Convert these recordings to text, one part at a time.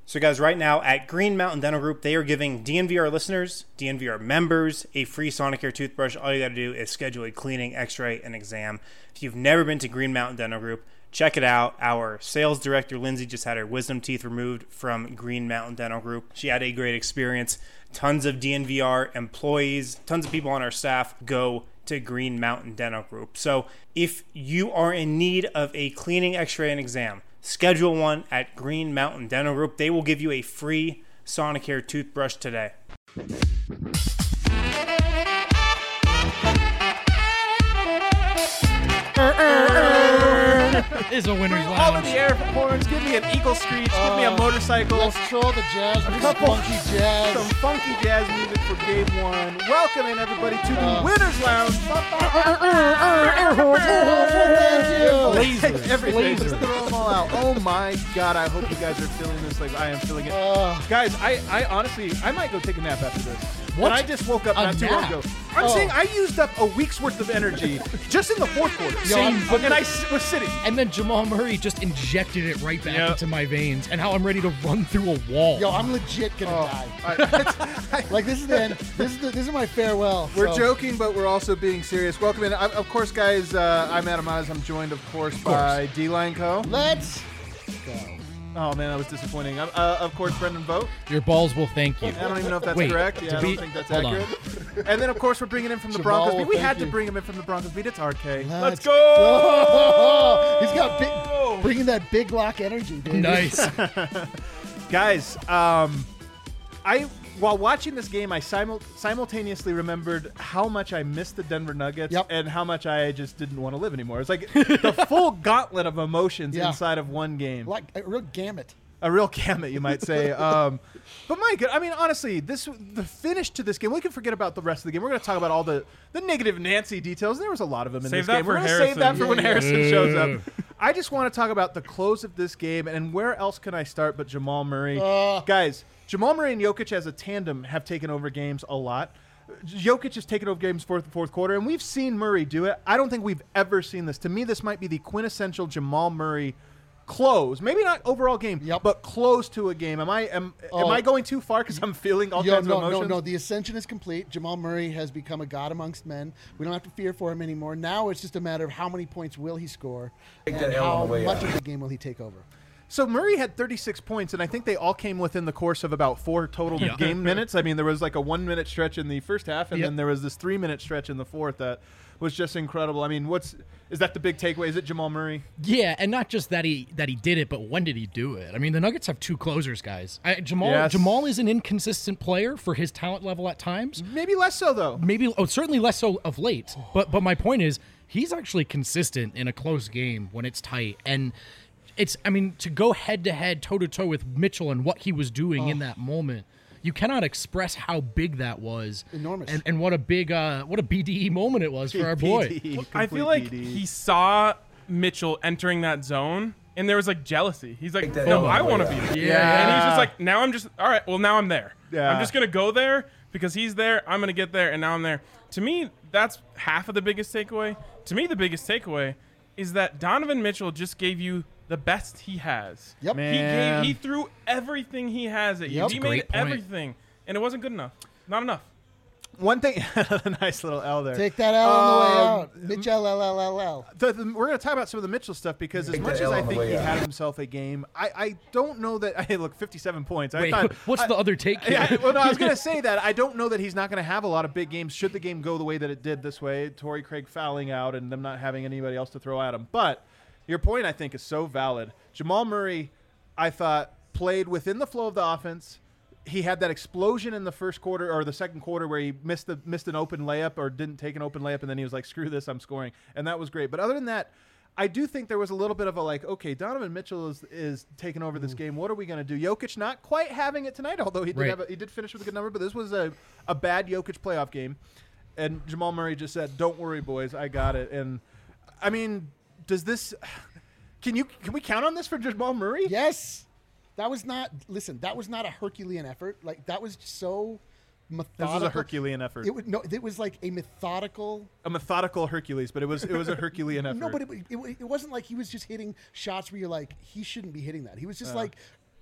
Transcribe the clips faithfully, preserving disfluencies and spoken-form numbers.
So guys, right now at Green Mountain Dental Group, they are giving D N V R listeners, D N V R members, a free Sonicare toothbrush. All you got to do is schedule a cleaning, x-ray, and exam. If you've never been to Green Mountain Dental Group, check it out. Our sales director, Lindsay, just had her wisdom teeth removed from Green Mountain Dental Group. She had a great experience. Tons of D N V R employees, tons of people on our staff go to Green Mountain Dental Group. So if you are in need of a cleaning, x-ray, and exam, schedule one at Green Mountain Dental Group. They will give you a free Sonicare toothbrush today. Is a winner's lounge. All of the air horns. Give me an eagle screech. Uh, give me a motorcycle. Let's troll the jazz. A Some couple- funky jazz. Some funky jazz music for game one. Welcome in everybody to the Uh, winners lounge. Lasers. Everything. Lasers. Just throw them all out. Oh my God! I hope you guys are feeling this like I am feeling it. Uh, Guys, I, I honestly, I might go take a nap after this. What? But I just woke up A not too long nap? ago. I'm Oh. saying I used up a week's worth of energy just in the fourth quarter. Same, but and I s- was sitting. And then Jamal Murray just injected it right back Yep. into my veins, and how I'm ready to run through a wall. yo, I'm legit gonna Oh, die. Like this is the end. This is the, this is my farewell. We're so. joking, but we're also being serious. Welcome in. I, of course, guys, uh, I'm Adam Oz. I'm joined, of course, by D-Line Co. Let's go. Oh, man, that was disappointing. Uh, uh, of course, Brendan Vogt. Your balls will thank you. I don't even know if that's Wait, correct. Yeah, to I be- don't think that's hold on. accurate. And then, of course, we're bringing in from the Jamal, Broncos beat. We thank had to you. bring him in from the Broncos beat. It's R K. Let's go! He's got big, bringing that big lock energy, dude. Nice. Guys, um, I while watching this game, I simul- simultaneously remembered how much I missed the Denver Nuggets Yep. and how much I just didn't want to live anymore. It's like the full gauntlet of emotions Yeah. inside of one game. Like a real gamut. A real gamut, you might say. Um, but my God, I mean, honestly, this the finish to this game. We can forget about the rest of the game. We're going to talk about all the the negative Nancy details. There was a lot of them in Save this that game. for We're going to Harrison. save that for Yeah, when yeah. Harrison shows up. I just want to talk about the close of this game, and where else can I start but Jamal Murray? Uh. Guys, Jamal Murray and Jokic as a tandem have taken over games a lot. Jokic has taken over games fourth fourth quarter, and we've seen Murray do it. I don't think we've ever seen this. To me, this might be the quintessential Jamal Murray close. Maybe not overall game, Yep. but close to a game. Am I am, Oh. am I going too far because I'm feeling all Yo, kinds no, of emotions? no, no. The ascension is complete. Jamal Murray has become a god amongst men. We don't have to fear for him anymore. Now it's just a matter of how many points will he score and how much of the game will he take over. So Murray had thirty-six points, and I think they all came within the course of about four total Yeah. game minutes. I mean, there was like a one-minute stretch in the first half, and Yep. then there was this three-minute stretch in the fourth that was just incredible. I mean, what's is that the big takeaway? Is it Jamal Murray? Yeah, and not just that he that he did it, but when did he do it? I mean, the Nuggets have two closers, guys. I, Jamal Yes. Jamal is an inconsistent player for his talent level at times. Maybe less so, though. Maybe, oh, certainly less so of late. But but my point is, he's actually consistent in a close game when it's tight. And it's, I mean, to go head to head, toe to toe with Mitchell and what he was doing in that moment, you cannot express how big that was. Enormous. And, and what a big, uh, what a B D E moment it was for our boy. P D, I complete feel like P D. he saw Mitchell entering that zone, and there was like jealousy. He's like, that no, L I way want to out. be there. Yeah. And he's just like, now I'm just, all right, well, now I'm there. Yeah. I'm just going to go there because he's there. I'm going to get there, and now I'm there. To me, that's half of the biggest takeaway. To me, the biggest takeaway is that Donovan Mitchell just gave you the best he has. Yep. He Man. gave, he threw everything he has at you. Yep. He That's a made great point. everything, and it wasn't good enough. Not enough. One thing, a nice little L there. Take that L on the way Um, out. Mitchell, L, L, L, L. The, the, we're going to talk about some of the Mitchell stuff because as Take much that as L I on the think way he out. had himself a game, I, I don't know that. Hey, look, fifty-seven points. I Wait, thought, what's I- the other take here? Yeah, well, no, I was going to say that. I don't know that he's not going to have a lot of big games should the game go the way that it did this way. Torrey Craig fouling out and them not having anybody else to throw at him. But your point, I think, is so valid. Jamal Murray, I thought, played within the flow of the offense. He had that explosion in the first quarter or the second quarter where he missed the missed an open layup or didn't take an open layup, and then he was like, "Screw this, I'm scoring," and that was great. But other than that, I do think there was a little bit of a like, okay, Donovan Mitchell is is taking over this game. What are we going to do? Jokic not quite having it tonight, although he did Right. have a, he did finish with a good number. But this was a a bad Jokic playoff game, and Jamal Murray just said, "Don't worry, boys, I got it." And I mean, does this? Can you can we count on this for Jamal Murray? Yes. That was not, listen, that was not a Herculean effort. Like, that was so methodical. This was a Herculean effort. It was, no, it was like a methodical. A methodical Hercules, but it was it was a Herculean effort. No, but it, it, it wasn't like he was just hitting shots where you're like, he shouldn't be hitting that. He was just like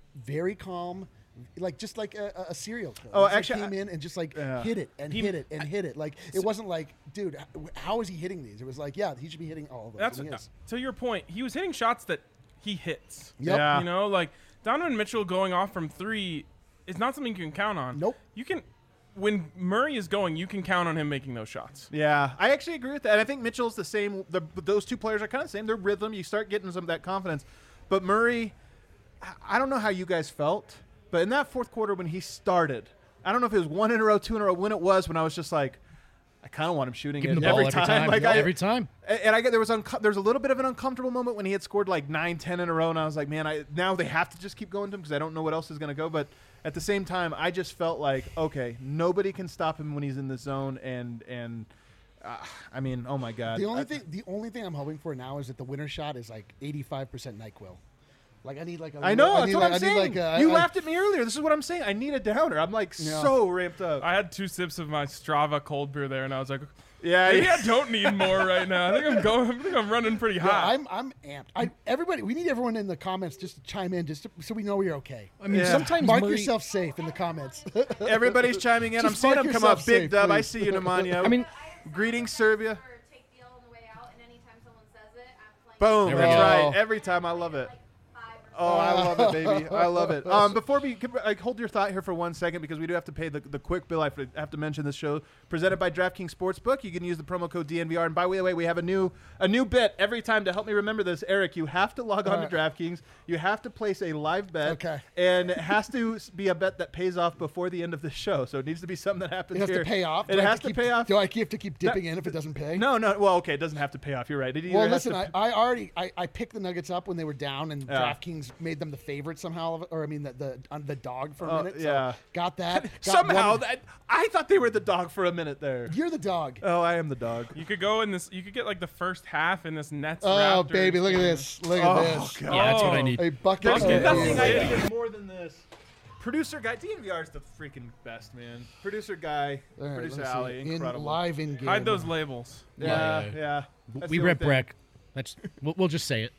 very calm. Like just like a, a serial killer. Oh, Just, actually, like, came I- in and just like Yeah. hit it and He- hit it and hit it. Like it wasn't like, dude, h- how is he hitting these? It was like, yeah, he should be hitting all of those. That's and he is. to your point. He was hitting shots that he hits. Yep. Yeah. You know, like Donovan Mitchell going off from three is not something you can count on. Nope. You can, when Murray is going, you can count on him making those shots. Yeah, I actually agree with that. And I think Mitchell's the same. The, those two players are kind of the same. Their rhythm, you start getting some of that confidence. But Murray, I- I don't know how you guys felt, but in that fourth quarter when he started, I don't know if it was one in a row, two in a row, when it was, when I was just like, I kind of want him shooting Give it him the ball every every time. time. Like Yeah, I, every time. And I get there was unco- there was a little bit of an uncomfortable moment when he had scored like nine, ten in a row, and I was like, man, I now they have to just keep going to him because I don't know what else is going to go. But at the same time, I just felt like, okay, nobody can stop him when he's in the zone, and and uh, I mean, oh my god. The only I- thing, the only thing I'm hoping for now is that the winner shot is like eighty-five percent NyQuil. Like I need like a I know I that's need what like, I'm I need saying. like a, you I- laughed at me earlier. This is what I'm saying. I need a downer. I'm like Yeah. so ramped up. I had two sips of my Strava cold brew there, and I was like, yeah, maybe yeah. I don't need more right now. I think I'm going. I think I'm running pretty Yeah, hot. I'm I'm amped. I, everybody, we need everyone in the comments just to chime in, just to, so we know we're okay. I mean, Yeah. sometimes Mark Murray, yourself safe in the comments. Everybody's chiming in. I'm Just seeing mark them come yourself up. Big safe, dub. I please. see you, Nemanja. I mean, greetings, Serbia. Or take the L on the way out, and anytime someone says it, I'm playing. Boom. There we That's go. right. Every time I love it. Like five or Oh, I love it, baby. I love it. Um, before we can, like, hold your thought here for one second because we do have to pay the, the quick bill. I have to, have to mention this show presented by DraftKings Sportsbook. You can use the promo code D N V R. And by the way, we have a new a new bit every time to help me remember this. Eric, you have to log on to DraftKings. You have to place a live bet. Okay. And it has to s- be a bet that pays off before the end of the show. So it needs to be something that happens It has here. to pay off. It Do I have has to keep, pay off. Do I have to keep dipping in if it doesn't pay? No, no. Well, okay, it doesn't have to pay off. You're right. It either Well, has listen, to I, I already I, I picked the Nuggets up when they were down, and Yeah. DraftKings made them the favorite somehow, or I mean the the, uh, the dog for a Oh, minute. yeah. So got that. Got somehow one- that I thought they were the dog for a minute there. you're the dog. Oh, I am the dog. You could go in this. You could get like the first half in this Nets. Oh Raptors baby, look at game. this! Look Oh, at this! God. yeah, that's what I Oh. need. A bucket. There's Okay, of that's nothing the I thing. need more than this. Producer guy, D N V R is the freaking best, man. Producer guy, All right, producer let me see. Alley, in incredible. live in game. Hide those labels. Yeah, Yeah. yeah. That's we the only rep thing. Breck. That's we'll, we'll just say it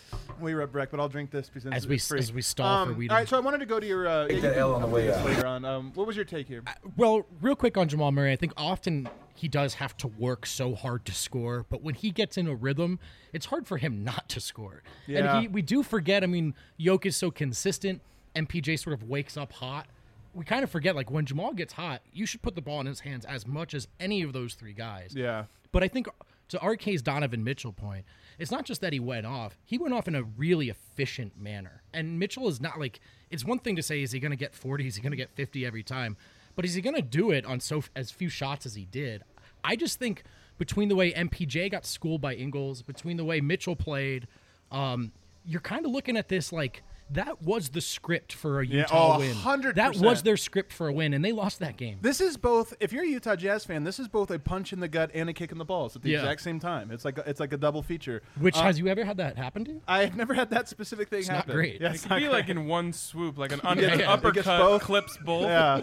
We rep Breck, but I'll drink this because as it's we free. as we stall Um, for weed. all right, so I wanted to go to your. Uh, Take that L on the way out. later on. Um, what was your take here? Well, real quick on Jamal Murray, I think often he does have to work so hard to score, but when he gets in a rhythm, it's hard for him not to score. Yeah. And he, we do forget, I mean, Jokic is so consistent, M P J sort of wakes up hot. We kind of forget, like, when Jamal gets hot, you should put the ball in his hands as much as any of those three guys. Yeah. But I think to R K's Donovan Mitchell point, it's not just that he went off. He went off in a really efficient manner. And Mitchell is not like, it's one thing to say, is he going to get forty? Is he going to get fifty every time? But is he going to do it on so as few shots as he did? I just think between the way M P J got schooled by Ingles, between the way Mitchell played, um, you're kind of looking at this like, that was the script for a Yeah, Utah oh, win. one hundred That percent. was their script for a win, and they lost that game. This is both. If you're a Utah Jazz fan, this is both a punch in the gut and a kick in the balls at the Yeah. exact same time. It's like a, it's like a double feature. Which Uh, has you ever had that happen to you? I've never had that specific thing not happen. great. Yeah, It it's could not be like great. in one swoop, like an under, Yeah, yeah. It gets uppercut both. clips both. Yeah.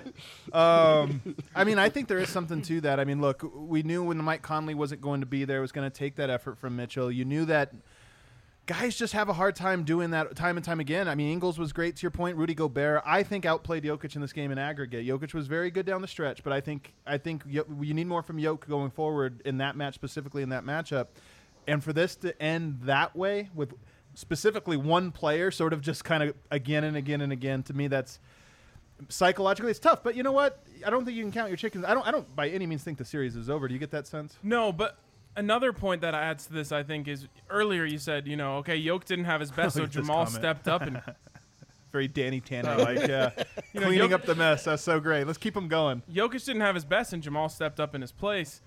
Um, I mean, I think there is something to that. I mean, look, we knew when Mike Conley wasn't going to be there, it was going to take that effort from Mitchell. You knew that guys just have a hard time doing that time and time again. I mean, Ingles was great to your point. Rudy Gobert, I think, outplayed Jokic in this game in aggregate. Jokic was very good down the stretch, but I think I think Yo- you need more from Jokic going forward in that match, specifically in that matchup. And for this to end that way with specifically one player sort of just kind of again and again and again, to me, that's psychologically it's tough. But you know what? I don't think you can count your chickens. I don't I don't by any means think the series is over. Do you get that sense? No, but another point that adds to this, I think, is earlier you said, you know, okay, Yoke didn't have his best, so Look at this Jamal comment. stepped up and Very Danny Tanner like, yeah. You know, Cleaning Jok- up the mess. That's so great. Let's keep him going. Jokic didn't have his best, and Jamal stepped up in his place.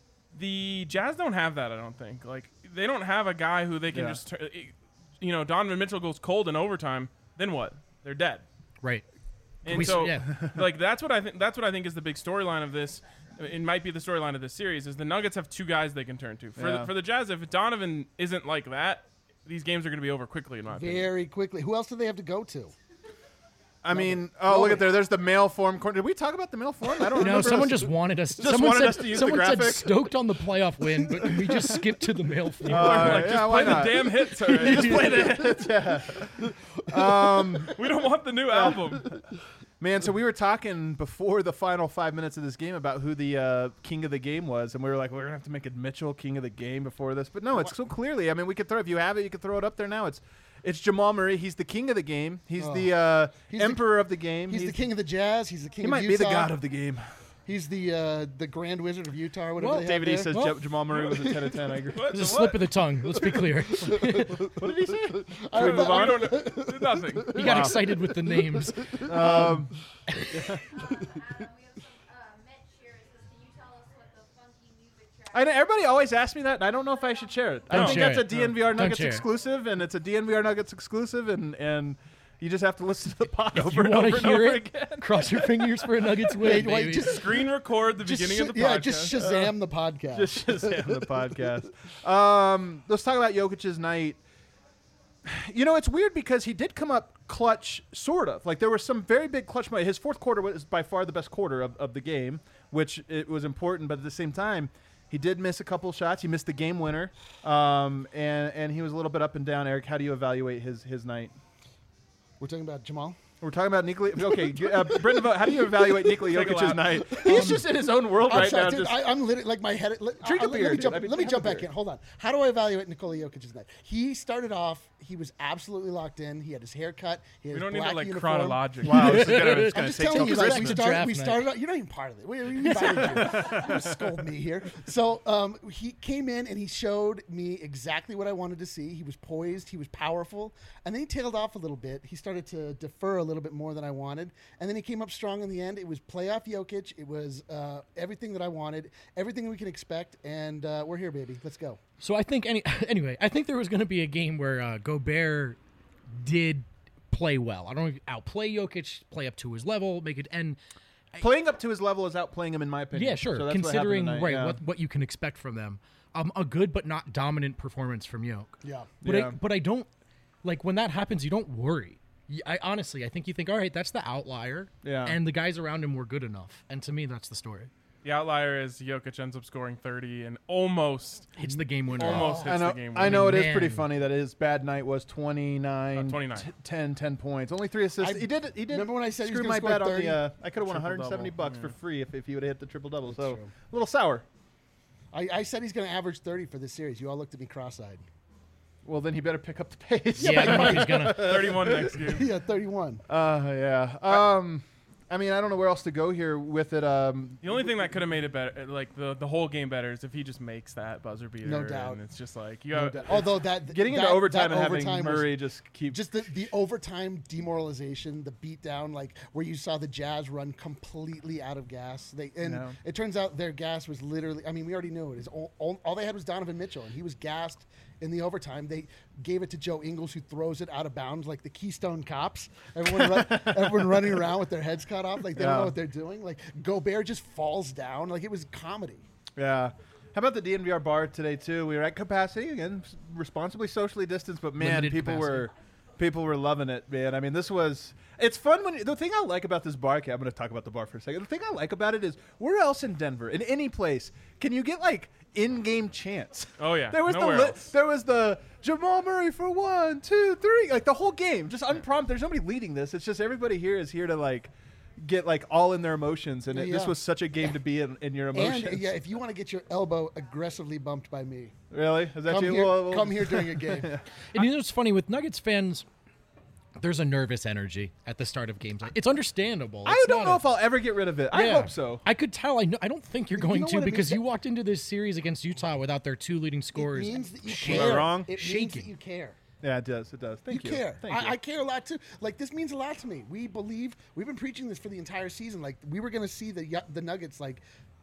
The Jazz don't have that, I don't think. Like, they don't have a guy who they can Yeah. just, tur- you know, Donovan Mitchell goes cold in overtime. Then what? They're dead. Right. And We- so, yeah. like, that's what I think. That's what I think is the big storyline of this. It might be the storyline of this series. Is the Nuggets have two guys they can turn to. For Yeah. the, for the Jazz, if Donovan isn't like that, these games are going to be over quickly. In my opinion. Very quickly. Who else do they have to go to? I mean, oh, look at there. There's the mail form corner. Did we talk about the mail form? I don't know. No, someone just wanted us. Just someone wanted said, us to use the someone said graphic? stoked on the playoff win, but can we just skip to the mail form? Uh, like, yeah, just why play the not? damn hits already. Just play the hits, yeah. Um, We don't want the new album. Man, so we were talking before the final five minutes of this game about who the uh, king of the game was, and we were like, we're gonna have to make it Mitchell king of the game before this. But no, it's so clearly. I mean, we could throw if you have it, you could throw it up there now. It's it's Jamal Murray. He's the king of the game. He's Oh. the uh, He's the- emperor of the game. He's, the king of the Jazz. He's the king He of might Utah. be the god of the game. He's the uh, the Grand Wizard of Utah or whatever Well, they have David E there. says Well- Ja- Jamal Murray was a ten of ten. I agree. What? It's a The slip what? of the tongue. Let's be clear. What did he say? Should we move on? We don't do nothing. He got excited with the names. Um, Um, we have some uh, Mitch here. It says, can you tell us what the funky music track I know, everybody always asks me that, and I don't know if I should share it. I Don't think share that's a it. D N V R Don't Nuggets share it. exclusive, and it's a D N V R Nuggets exclusive, and and you just have to listen to the pod If over you and want over to and hear over it, again. cross your fingers for a Nuggets win, Wait, wait, baby. just- Screen record the Just beginning sh- of the yeah, podcast. just Shazam the podcast. Just Shazam the podcast. Um, let's talk about Jokic's night. You know, it's weird because he did come up clutch, sort of. Like, there were some very big clutch moments. His fourth quarter was by far the best quarter of, of the game, which it was important. But at the same time, he did miss a couple shots. He missed the game winner, um, and, and he was a little bit up and down. Eric, how do you evaluate his, his night? We're talking about Jamal. We're talking about Nikola. Okay, uh, Brendan, how do you evaluate Nikola Take a Jokic's lap. night? He's just in his own world I'm right sorry, now. dude, Just, I, I'm literally like my head. Let, Drink a uh, let beer, me dude. jump, I mean, let me have jump a back beer. in. Hold on. How do I evaluate Nikola Jokic's night? He started off. He was absolutely locked in. He had his hair cut. He had We his don't need black to like uniform. chronologically. wow, this is gonna, it's I'm gonna just take telling till you, like, we, Christmas. It's a start, draft we night. started out. You're not even part of it. We, we invited you. You're gonna scold me here. So um, he came in and he showed me exactly what I wanted to see. He was poised. He was powerful. And then he tailed off a little bit. He started to defer a little bit more than I wanted. And then he came up strong in the end. It was playoff Jokic. It was uh, everything that I wanted, everything we can expect. And uh, we're here, baby. Let's go. So I think any anyway, I think there was going to be a game where uh, Gobert did play well. I don't know, outplay Jokic, play up to his level, make it end. Playing up to his level is outplaying him, in my opinion. Yeah, sure. So that's what Considering happened tonight, right yeah. what what you can expect from them, um, a good but not dominant performance from Yoke. Yeah. But Yeah. I, but I don't like when that happens. You don't worry. Y- I honestly, I think you think, all right, that's the outlier. Yeah. And the guys around him were good enough. And to me, that's the story. The outlier is Jokic ends up scoring thirty and almost, Hits the game winner. almost hits I know, the game. I know it is Man. pretty funny that his bad night was twenty-nine, Uh, twenty-nine. t- ten, ten points, only three assists. I- he did. He did. remember when I said he was screw gonna my score bet on thirty? the? Uh, I could have won one Triple hundred seventy double, bucks yeah. for free if, if he would have hit the triple double. So true. a little sour. I, I said he's going to average thirty for this series. You all looked at me cross-eyed. Well, then he better pick up the pace. Yeah, I don't know if he's gonna. thirty-one next game. yeah, thirty-one. Uh, yeah. Um, I mean, I don't know where else to go here with it. Um, The only thing that could have made it better, like the, the whole game better, is if he just makes that buzzer beater. No doubt. And it's just like you No got. doubt. Although that getting that, into overtime that and having overtime was- Murray just keep. just the, the overtime demoralization, the beatdown, like where you saw the Jazz run completely out of gas. They and Yeah. it turns out their gas was literally. I mean, we already knew it. Is all, all, all they had was Donovan Mitchell, and he was gassed in the overtime. They gave it to Joe Ingles, who throws it out of bounds like the Keystone Cops. Everyone, run, everyone running around with their heads cut off, like they don't Yeah. know what they're doing. Like Gobert just falls down, like it was comedy. Yeah. How about the D N V R bar today too? We were at capacity again, s- responsibly socially distanced, but man, Limited people capacity. were people were loving it, man. I mean, this was it's fun when the thing I like about this bar. Okay, I'm going to talk about the bar for a second. The thing I like about it is where else in Denver, in any place, can you get like in-game chants? Oh, yeah. there was Nowhere the li- else. there was the Jamal Murray for one, two, three, like the whole game, just unprompted. There's nobody leading this. It's just everybody here is here to like. Get like all in their emotions, and it, Yeah. this was such a game to be in, in your emotions. And yeah, if you want to get your elbow aggressively bumped by me, Really? Is that come you? here, Well, well- come here during a game. And you know what's funny with Nuggets fans? There's a nervous energy at the start of games. It's understandable. I It's don't not know a- if I'll ever get rid of it. I Yeah. hope so. I could tell. I know. I don't think you're going know to what it because means? you walked into this series against Utah without their two leading It scorers. means that you shaking. Am I care. wrong? It means Shaking. that you care. Yeah, it does. It does. Thank you. you care. Thank I, you. I care a lot too. Like this means a lot to me. We believe we've been preaching this for the entire season. Like we were going to see the Yu- the Nuggets like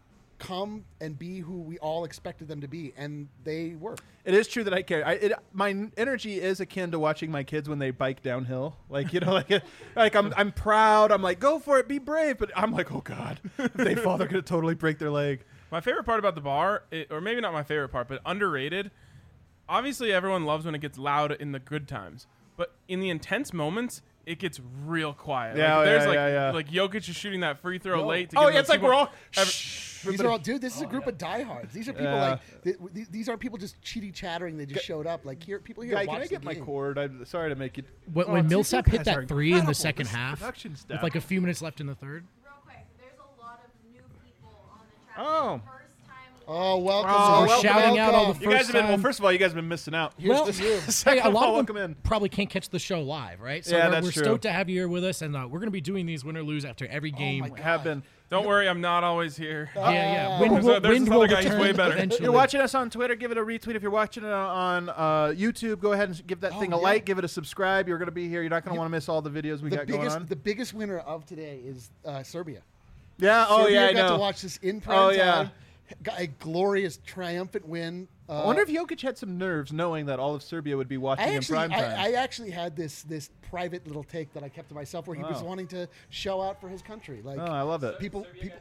come and be who we all expected them to be, and they were. It is true that I care. I, it, my n- energy is akin to watching my kids when they bike downhill. Like you know, like like I'm I'm proud. I'm like, go for it, be brave. But I'm like, oh god, if they fall, they're gonna totally break their leg. My favorite part about the bar, it, or maybe not my favorite part, but underrated. Obviously, everyone loves when it gets loud in the good times, but in the intense moments, it gets real quiet. Yeah, like, oh, there's yeah, like yeah, yeah. like Jokic is shooting that free throw late. To Oh, give yeah, those it's like people- we're all. every- These are all, dude. This is a group of diehards. These are people Yeah. like th- th- these aren't people just cheaty chattering. They just showed up. Like here, people here. Guy, watch can I the get my game. cord? I'm sorry to make it. When, Oh, when dude, you Millsap hit guys that are three in the incredible. second This half, production staff. with like a few minutes left in the third. Real quick, there's a lot of new people on the chat. Oh. First time. Oh, welcome. Oh, We're welcome, shouting out all welcome. the You guys first have been. Well, time- first of all, you guys have been missing out. Here's Well, to you. Hey, Second a of lot all, of welcome them in. probably can't catch the show live, right? So Yeah, we're, that's we're true. stoked to have you here with us, and uh, we're going to be doing these win or lose after every game. my God. Have been. Don't worry, I'm not always here. yeah, yeah. Oh. Wind There's will, a- there's wind this will other guy, he's return way better. If eventually. If you're watching us on Twitter, give it a retweet. If you're watching it on uh, YouTube, go ahead and give that Oh, thing a yeah. like. Give it a subscribe. You're going to be here. You're not going to want to miss all the videos we The got going biggest, on. the biggest winner of today is uh, Serbia. Yeah. Oh Serbia yeah. I got know. to watch this in prime Oh, time. yeah. Got a glorious, triumphant win. Uh, I wonder if Jokic had some nerves knowing that all of Serbia would be watching I in actually, prime time. I, I actually had this this private little take that I kept to myself, where he was Wow. wanting to show out for his country. Like, oh, I love it. people, people.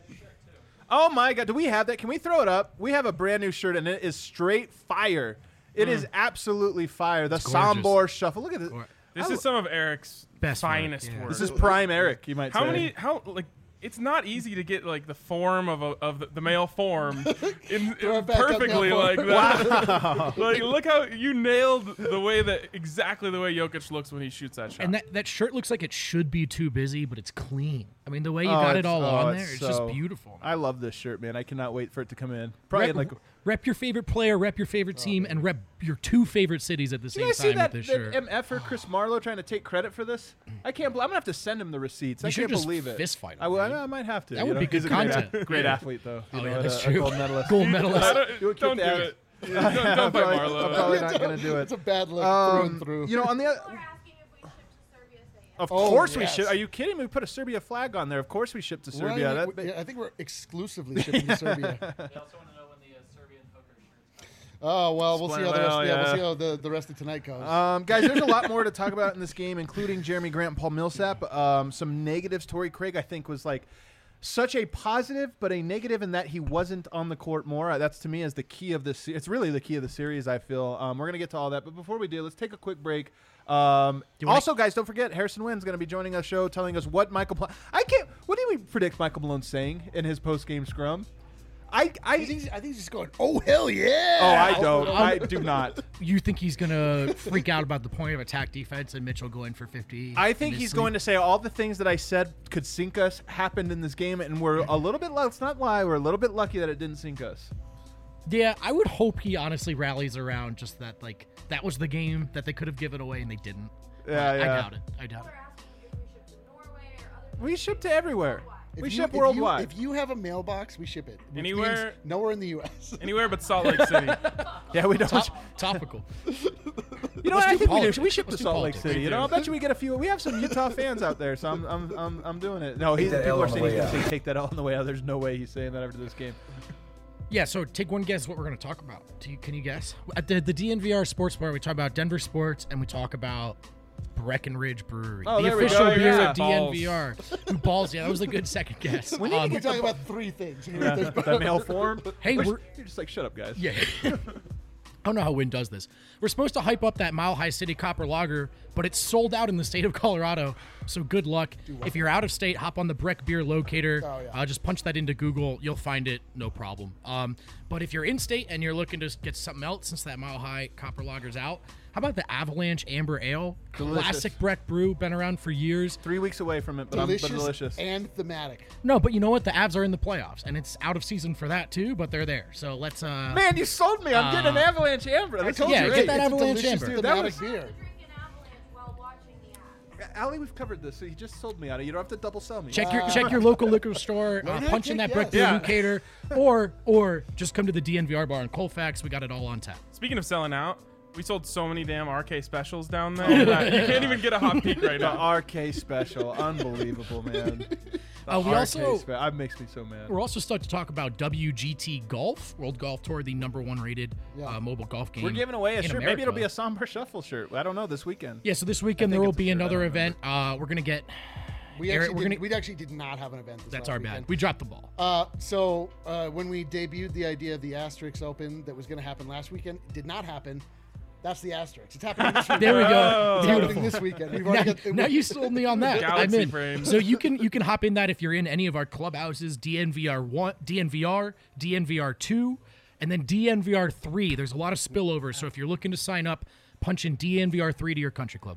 Oh my God! Do we have that? Can we throw it up? We have a brand new shirt, and it is straight fire. It is absolutely fire. The It's gorgeous. Sambor shuffle. Look at this. Gor- This I is some of Eric's Best work, finest yeah. work. This is prime Eric. You might How say. many? How like? It's not easy to get like the form of a, of the, the male form in, Throw in it back up, perfectly male like form. that. Like look how you nailed the way that exactly the way Jokic looks when he shoots that shot. And that, that shirt looks like it should be too busy, but it's clean. I mean, the way you Oh, got it it's- all oh, on it's there, it's so- just beautiful. I love this shirt, man. I cannot wait for it to come in. Probably Rep, in like. rep your favorite player, rep your favorite team, and rep your two favorite cities at the Did same you guys see time that, with this that shirt. M F or Chris Marlowe trying to take credit for this? I can't. bel- I'm gonna have to send him the receipts. I You should can't just believe it. fist fight him, I, will, dude. I might have to. That you would know? be good He's a great content. ath- Great athlete, though. You Oh, know, yeah, and that's a, a true. gold medalist. Gold I medalist. don't, You would don't keep do that. it. Don't, don't I'm fight probably, Marlo. I'm probably not gonna do it. It's a bad look through and Um, through. you know, on the other, People are asking if we ship to Serbia. Say yes. of Oh, course we yes. ship. Are you kidding me? We put a Serbia flag on there. Of course we ship to We're Serbia. not even- That- yeah, I think we're exclusively shipping to Serbia. They also want to know when the uh, Serbian hooker shirt's coming. Oh well, we'll see how the rest. Well, yeah, we'll yeah. see how the, the rest of tonight goes. Um, guys, there's a lot more to talk about in this game, including Jeremy Grant and Paul Millsap. Um, some negatives. Torrey Craig, I think, was like such a positive, but a negative in that he wasn't on the court more. Uh, That's to me as the key of this. It's really the key of the series. I feel. Um, we're gonna get to all that, but before we do, let's take a quick break. Um, you wanna- also, guys, don't forget Harrison Wynn's going to be joining us show, telling us what Michael. Pla- I can't. What do we predict Michael Malone's saying in his post game scrum? I. I. I think, he's- I think he's just going, oh hell yeah! Oh, I don't. I do not. You think he's gonna freak out about the point of attack defense and Mitchell going for fifty? I think he's going to say all the things that I said could sink us happened in this game, and we're a little bit. Let's not lie. We're a little bit lucky that it didn't sink us. Yeah, I would hope he honestly rallies around just that. Like that was the game that they could have given away and they didn't. Yeah, I, yeah. I doubt it. I doubt People it. are asking if we ship to Norway or other. We ship to everywhere. If we you- ship if you- worldwide. If you have a mailbox, we ship it. Which Anywhere- means nowhere in the U S Anywhere but Salt Lake City. yeah, we don't. Top, topical. you know, let's what? I do think we, politics. do. we ship Let's to do Salt Lake politics. City. We You know, do. I bet you we get a few. We have some Utah fans out there, so I'm, I'm, I'm, I'm doing it. No, he's, that people L are on the saying he's way going to out. say take that L on the way out. There's no way he's saying that after this game. Yeah, so take one guess what we're going to talk about. Do you, can you guess? At the, the D N V R Sports Bar, we talk about Denver sports and we talk about Breckenridge Brewery, Oh, the there we official go, beer yeah. at D N V R. Ooh, balls, yeah, that was a good second guess. We need to Um, We're get talking about three things. Yeah, the mail form. Hey, We're- we're- you're just like shut up, guys. Yeah. I don't know how Wynn does this. We're supposed to hype up that Mile High City Copper Lager, but it's sold out in the state of Colorado. So good luck. If you're out of state, hop on the Breck Beer Locator. Oh, yeah. uh, just punch that into Google. You'll find it. No problem. Um, but if you're in state and you're looking to get something else since that Mile High Copper Lager's out, how about the Avalanche Amber Ale? Delicious. Classic Breck brew, been around for years. Three weeks away from it, but delicious, I'm but delicious. and thematic. No, but you know what? The Avs are in the playoffs, and it's out of season for that too, but they're there. So let's... Uh, Man, you sold me. I'm getting an Uh, Avalanche Amber. I This told is yeah, you, get great. that it's a Avalanche delicious Amber. Dude, that thematic was- beer. To drink an avalanche while watching the app. Allie, we've covered this, so you just sold me on it. You don't have to double sell me. Check your check your local liquor store, uh, Learn how to punch in take that Breck yes. Beer Yeah. Locator, or or just come to the D N V R bar in Colfax. We got it all on tap. Speaking of selling out, we sold so many damn R K specials down there that you can't even get a hot peek right The now. R K special. Unbelievable, man. The Uh, we R K also- spe- that makes me so mad. We're also starting to talk about W G T Golf, World Golf Tour, the number one rated Yeah. uh, mobile golf game. We're giving away a in shirt. America. Maybe it'll be a Somber Shuffle shirt. I don't know, this weekend. Yeah, so this weekend think there will it's a be shirt, I another don't event. Uh, we're gonna get. We Eric, actually, we're did, gonna- we actually did not have an event. This That's last our weekend. bad. We dropped the ball. Uh, so uh, when we debuted the idea of the Asterix Open that was going to happen last weekend, it did not happen. That's the asterisk. It's happening this weekend. There we go. It's Beautiful. happening this weekend. We've Now, already got, now you sold me on that. Galaxy I'm in. frame. So you can you can hop in that if you're in any of our clubhouses, D N V R one, D N V R, D N V R two, and then D N V R three. There's a lot of spillover, so if you're looking to sign up, punch in D N V R three to your country club.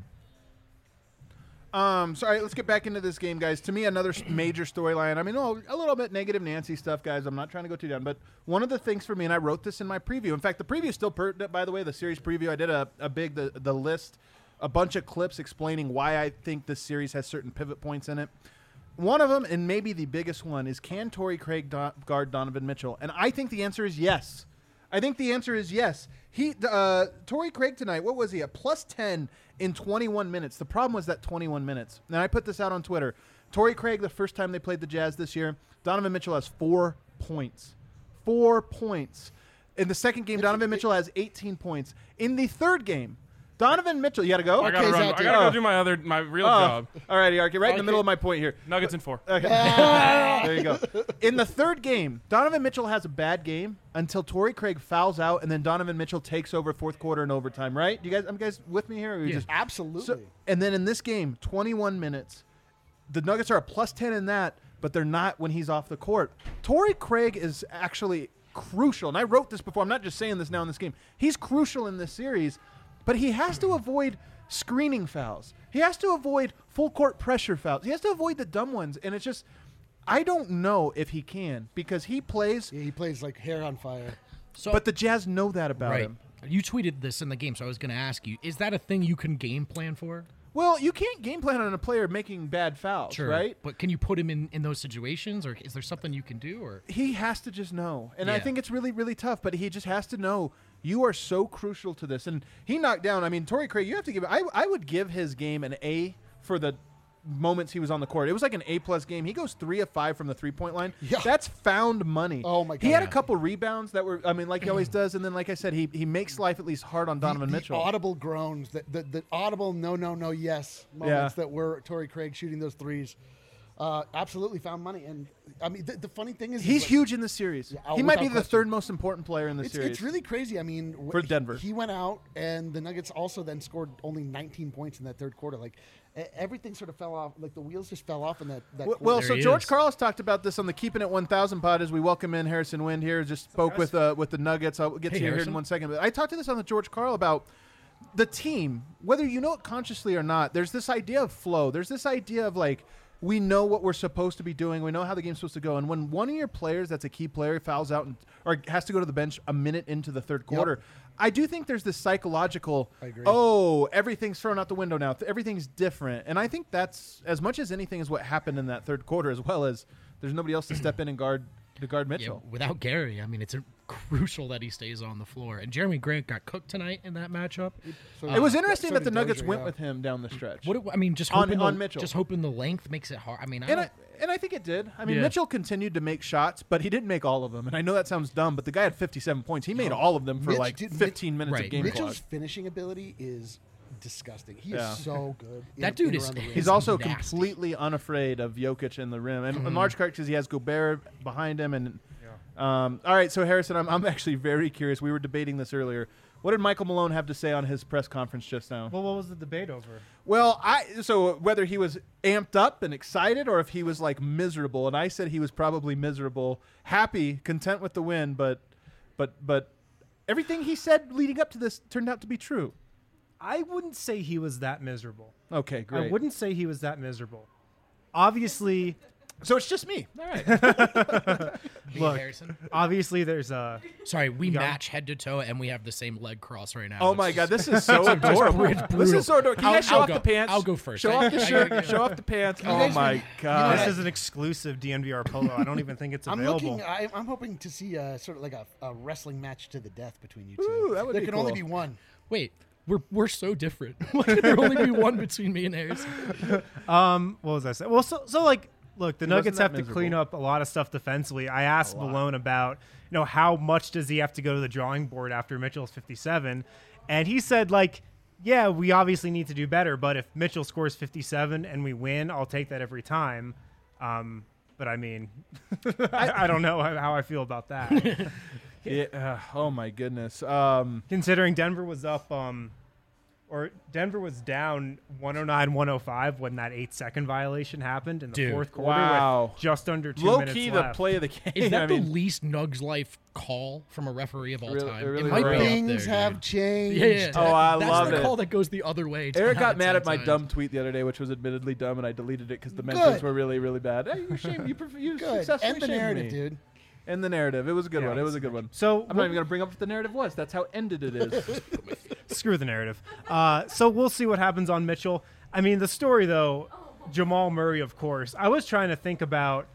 Um, so, all right, let's get back into this game, guys. To me, another s- major storyline. I mean, oh, a little bit negative Nancy stuff, guys. I'm not trying to go too down, but one of the things for me, and I wrote this in my preview. In fact, the preview is still pertinent, by the way. The series preview, I did a, a big the the list, a bunch of clips explaining why I think this series has certain pivot points in it. One of them, and maybe the biggest one, is can Torrey Craig do- guard Donovan Mitchell? And I think the answer is yes. I think the answer is yes. He, uh, Torrey Craig tonight, what was he, at plus ten in twenty-one minutes. The problem was that twenty-one minutes. And I put this out on Twitter. Torrey Craig, the first time they played the Jazz this year, Donovan Mitchell has four points. Four points. In the second game, Donovan Mitchell has eighteen points. In the third game, Donovan Mitchell, you got to go? I gotta Okay, run. Zach, I gotta oh. go do my other my real Oh, job. all righty, Arky, right in the Okay. middle of my point here. Nuggets in four. Okay. there you go. In the third game, Donovan Mitchell has a bad game until Torrey Craig fouls out, and then Donovan Mitchell takes over fourth quarter and overtime. Right? You guys, I'm guys with me here? Or are we Yeah. just Absolutely. so, and then in this game, twenty-one minutes, the Nuggets are a plus ten in that, but they're not when he's off the court. Torrey Craig is actually crucial, and I wrote this before. I'm not just saying this now in this game. He's crucial in this series, but he has to avoid screening fouls. He has to avoid full court pressure fouls. He has to avoid the dumb ones, and it's just I don't know if he can because he plays, Yeah, he plays like hair on fire. So, but the Jazz know that about right. him. You tweeted this in the game, so I was going to ask you: is that a thing you can game plan for? Well, you can't game plan on a player making bad fouls, right? But can you put him in, in those situations, or is there something you can do? Or He has to just know. And I Yeah. think it's really, really tough, but he just has to know you are so crucial to this. And he knocked down, I mean, Torrey Craig, you have to give, I, I would give his game an A for the moments he was on the court. It was like an A-plus game. He goes three of five from the three-point line. Yeah. That's found money. Oh, my He God. had a Yeah. couple rebounds that were, I mean, like he always does. And then, like I said, he, he makes life at least hard on Donovan the, the Mitchell. audible groans, the, the, the audible no, no, no, yes moments Yeah. that were Torrey Craig shooting those threes. Uh, absolutely found money. And, I mean, the, the funny thing is... is He's like- huge in this series. Yeah, oh, he might be without the question. third most important player in this It's, series. it's really crazy. I mean, wh- For he- Denver. he went out, and the Nuggets also then scored only nineteen points in that third quarter. Like e- everything sort of fell off. Like the wheels just fell off in that. that Well, quarter. well There so he George is. Carlos talked about this on the Keeping It one thousand pod as we welcome in Harrison Wind here. Just spoke with uh, with the Nuggets. I'll get Hey, to you here in Harrison. one second. But I talked to this on the George Carl about the team, whether you know it consciously or not. There's this idea of flow. There's this idea of like we know what we're supposed to be doing. We know how the game's supposed to go. And when one of your players that's a key player fouls out and, or has to go to the bench a minute into the third quarter, I do think there's this psychological, I agree. oh, everything's thrown out the window now. Everything's different. And I think that's, as much as anything, is what happened in that third quarter, as well as there's nobody else to step in and guard to guard yeah, Mitchell. without Gary, I mean, it's a crucial that he stays on the floor. And Jeremy Grant got cooked tonight in that matchup. So- It was uh, interesting so that the did Nuggets Dozier, went yeah. with him down the stretch. What do- I mean, just On- hoping on the, Mitchell. just hoping the length makes it hard. I mean, I and don't, I, and I think it did. I mean, Yeah. Mitchell continued to make shots, but he didn't make all of them. And I know that sounds dumb, but the guy had fifty-seven points. He made all of them for Mitch like did- fifteen minutes right. of game Mitchell's clock. finishing ability is disgusting. He Yeah. is so good. in- That dude in is- around the rim. He's is also nasty. completely unafraid of Jokic in the rim, and Mm-hmm. in large part because he has Gobert behind him. And um, all right, so Harrison, I'm, I'm actually very curious. We were debating this earlier. What did Michael Malone have to say on his press conference just now? Well, what was the debate over? Well, I so whether he was amped up and excited or if he was like miserable, and I said he was probably miserable, happy, content with the win, but but but everything he said leading up to this turned out to be true. I wouldn't say he was that miserable. Okay, I great. wouldn't say he was that miserable. Obviously, So it's just me. all right. Me, Look. Harrison. Obviously, there's a. Sorry, we got- match head to toe, and we have the same leg cross right now. Oh It's my just- god, this is so adorable. it's This brutal. is so adorable. Can you I'll- guys show I'll off go- the pants? I'll go first. Show I- off the I- shirt. I- Show off the pants. You Oh guys my know god. This is an exclusive D N V R polo. I don't even think it's I'm available. looking. I, I'm hoping to see a sort of like a, a wrestling match to the death between you two. Ooh, that would there be can only cool. be one. Wait, we're we're so different. Why can there only be one between me and Harrison? Um, what was I saying? Well, so so like, look, the He Nuggets wasn't that have to clean miserable. up a lot of stuff defensively. I asked Malone about, you know, how much does he have to go to the drawing board after Mitchell's fifty-seven, and he said like, yeah, we obviously need to do better, but if Mitchell scores fifty-seven and we win, I'll take that every time. Um, but I mean, I, I don't know how, how I feel about that. Yeah. Uh, oh my goodness. Um, Considering Denver was up, um, or Denver was down one oh nine one oh five when that eight second violation happened in the Dude. fourth quarter Wow. with just under two low minutes key, the left. play of the game. Is that I the mean, least Nugs life call from a referee of all Really- time? it really it might was. be up Things there, have dude. changed. Yeah, yeah. Oh, I That's love the it. call that goes the other way. Eric ten got out of mad ten at my times. dumb tweet the other day, which was admittedly dumb, and I deleted it because the metrics Good. were really, really bad. Hey, you shame, you, prefer, you Good. successfully End the shamed narrative, me. dude. End the narrative. It was a good Yeah. one. It was a good one. So I'm not even going to bring up what the narrative was. That's how ended it is. Screw the narrative. Uh, so we'll see what happens on Mitchell. I mean, the story, though, Jamal Murray, of course. I was trying to think about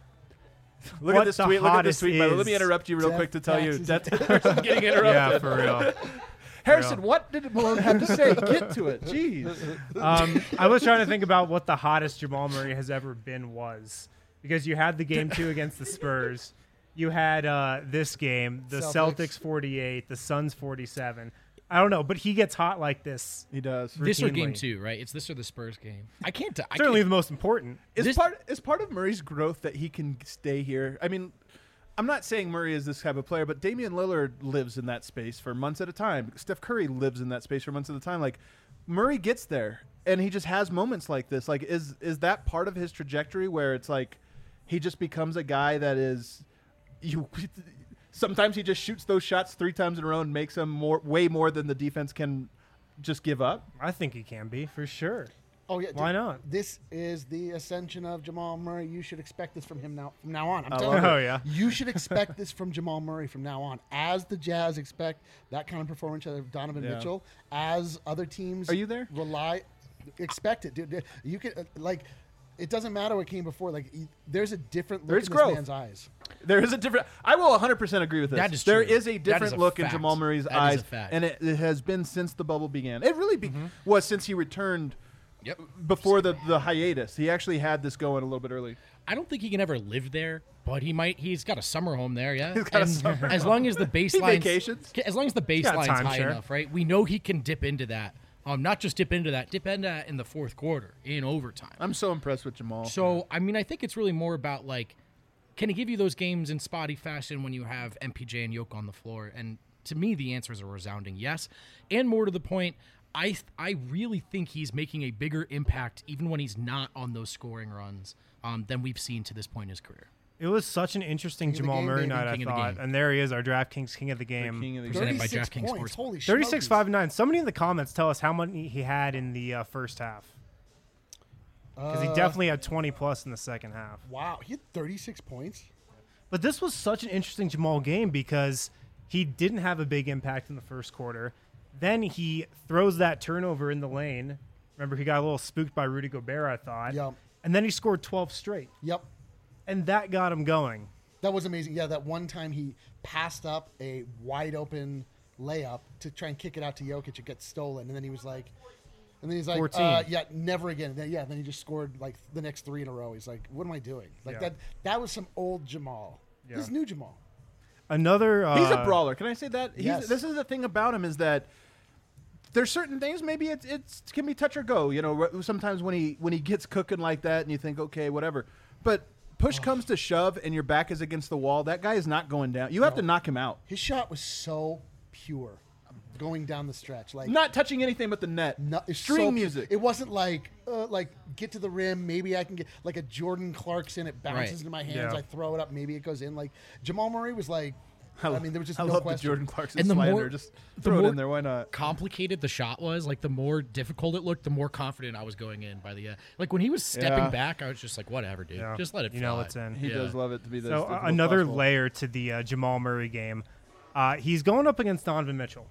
Look what at this the tweet. Look at this hottest tweet. by the way. Let me is. interrupt you real Death quick to tell you. taxes. That person's getting interrupted. yeah, for real. Harrison, what did Malone have to say? Get to it. Jeez. Um, I was trying to think about what the hottest Jamal Murray has ever been was, because you had the game two against the Spurs, you had uh, this game, the Celtics. Celtics forty-eight, the Suns forty-seven. I don't know, but he gets hot like this. He does. This or game routinely. two, right? It's this or the Spurs game. I can't. I Certainly can't the most important. Is This- part is part of Murray's growth that he can stay here? I mean, I'm not saying Murray is this type of player, but Damian Lillard lives in that space for months at a time. Steph Curry lives in that space for months at a time. Like Murray gets there, and he just has moments like this. Like, is is that part of his trajectory where it's like he just becomes a guy that is you? Sometimes he just shoots those shots three times in a row and makes them more, way more than the defense can just give up. I think he can be, for sure. Oh yeah. Why dude, not? This is the ascension of Jamal Murray. You should expect this from him now. From now on, I'm I telling love you. it. Oh, yeah. You should expect this from Jamal Murray from now on. As the Jazz expect that kind of performance out of Donovan Yeah. Mitchell, as other teams Are you there? rely, expect it, dude. You can uh, like. It doesn't matter what came before. Like, he- there's a different look There's in growth. this man's eyes. There is a different. I will one hundred percent agree with this. That is There true. is a That different is a look in fact. Jamal Murray's That is eyes, a fact. and it, it has been since the bubble began. It really be, Mm-hmm. was since he returned Yep. before the, the hiatus. He actually had this going a little bit early. I don't think he can ever live there, but he might. He's got a summer home there, yeah. He's got a And summer as long as the baseline vacations. as long as the got baseline's high timeshare. enough, right? We know he can dip into that. Um, not just dip into that, dip into that in the fourth quarter in overtime. I'm so impressed with Jamal. So I mean, I think it's really more about like, can he give you those games in spotty fashion when you have M P J and Yoke on the floor? And to me, the answer is a resounding yes. And more to the point, I I really think he's making a bigger impact even when he's not on those scoring runs um, than we've seen to this point in his career. It was such an interesting King of the Jamal game, Murray baby. night, I King of the thought. game. And there he is, our DraftKings King of the Game. King of the Presented game. by thirty-six DraftKings points. Sportsbook. Holy shit. thirty-six five nine. Somebody in the comments tell us how many he had in the uh, first half. Because he Uh, definitely had twenty plus in the second half. Wow, he had thirty-six points. But this was such an interesting Jamal game because he didn't have a big impact in the first quarter. Then he throws that turnover in the lane. Remember, he got a little spooked by Rudy Gobert, I thought. Yep. And then he scored twelve straight. Yep. And that got him going. That was amazing. Yeah, that one time he passed up a wide open layup to try and kick it out to Jokic. It gets stolen, and then he was like, and then he's like, fourteen. uh, yeah, never again. Then, yeah, then he just scored like the next three in a row. He's like, what am I doing? Like Yeah. that. That was some old Jamal. Yeah. This is new Jamal. Another. Uh, He's a brawler. Can I say that? He's, Yes. This is the thing about him is that there's certain things maybe it's it's can be touch or go. You know, wh- sometimes when he when he gets cooking like that, and you think, okay, whatever. But push comes to shove, and your back is against the wall. That guy is not going down. You have to knock him out. His shot was so pure, going down the stretch. Like Not touching anything but the net. No, it's String so pu- music. It wasn't like uh, like get to the rim. Maybe I can get like a Jordan Clarkson. It bounces Right. into my hands. Yeah. I throw it up. Maybe it goes in. Like Jamal Murray was like. I mean, there was just I no love question. the Jordan Clarkson And the slander. more- Just the throw it more- in there. Why not? Complicated the shot was, like the more difficult it looked, the more confident I was going in by the end. Like when he was stepping Yeah. back, I was just like, whatever, dude, Yeah. just let it. You know fly. what's in. He Yeah. does love it to be this. So this uh, most another possible. layer to the uh, Jamal Murray game. Uh, he's going up against Donovan Mitchell.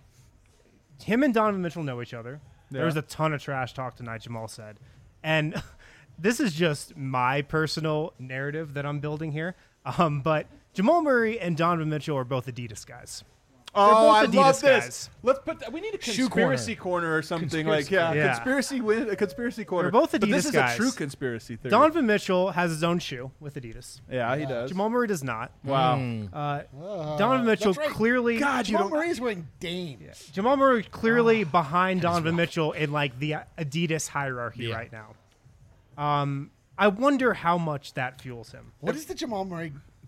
Him and Donovan Mitchell know each other. There was Yeah. a ton of trash talk tonight, Jamal said. And this is just my personal narrative that I'm building here. Um, but Jamal Murray and Donovan Mitchell are both Adidas guys. Oh, both I Adidas love this. guys. Let's put that. We need a Shoe conspiracy corner. or something Conspiracy like yeah, corner. Yeah. conspiracy win a conspiracy corner. both but this Adidas is guys. a true conspiracy theory. Donovan Mitchell has his own shoe with Adidas. yeah, he does. Jamal Murray does not. wow. Mm. Uh, Uh, Donovan Mitchell that's right. clearly. God, you Jamal don't. Murray is wearing Dames. Jamal Murray clearly Ah, behind Donovan Mitchell in like the Adidas hierarchy Yeah. right now. Um, I wonder how much that fuels him. What is the Jamal Murray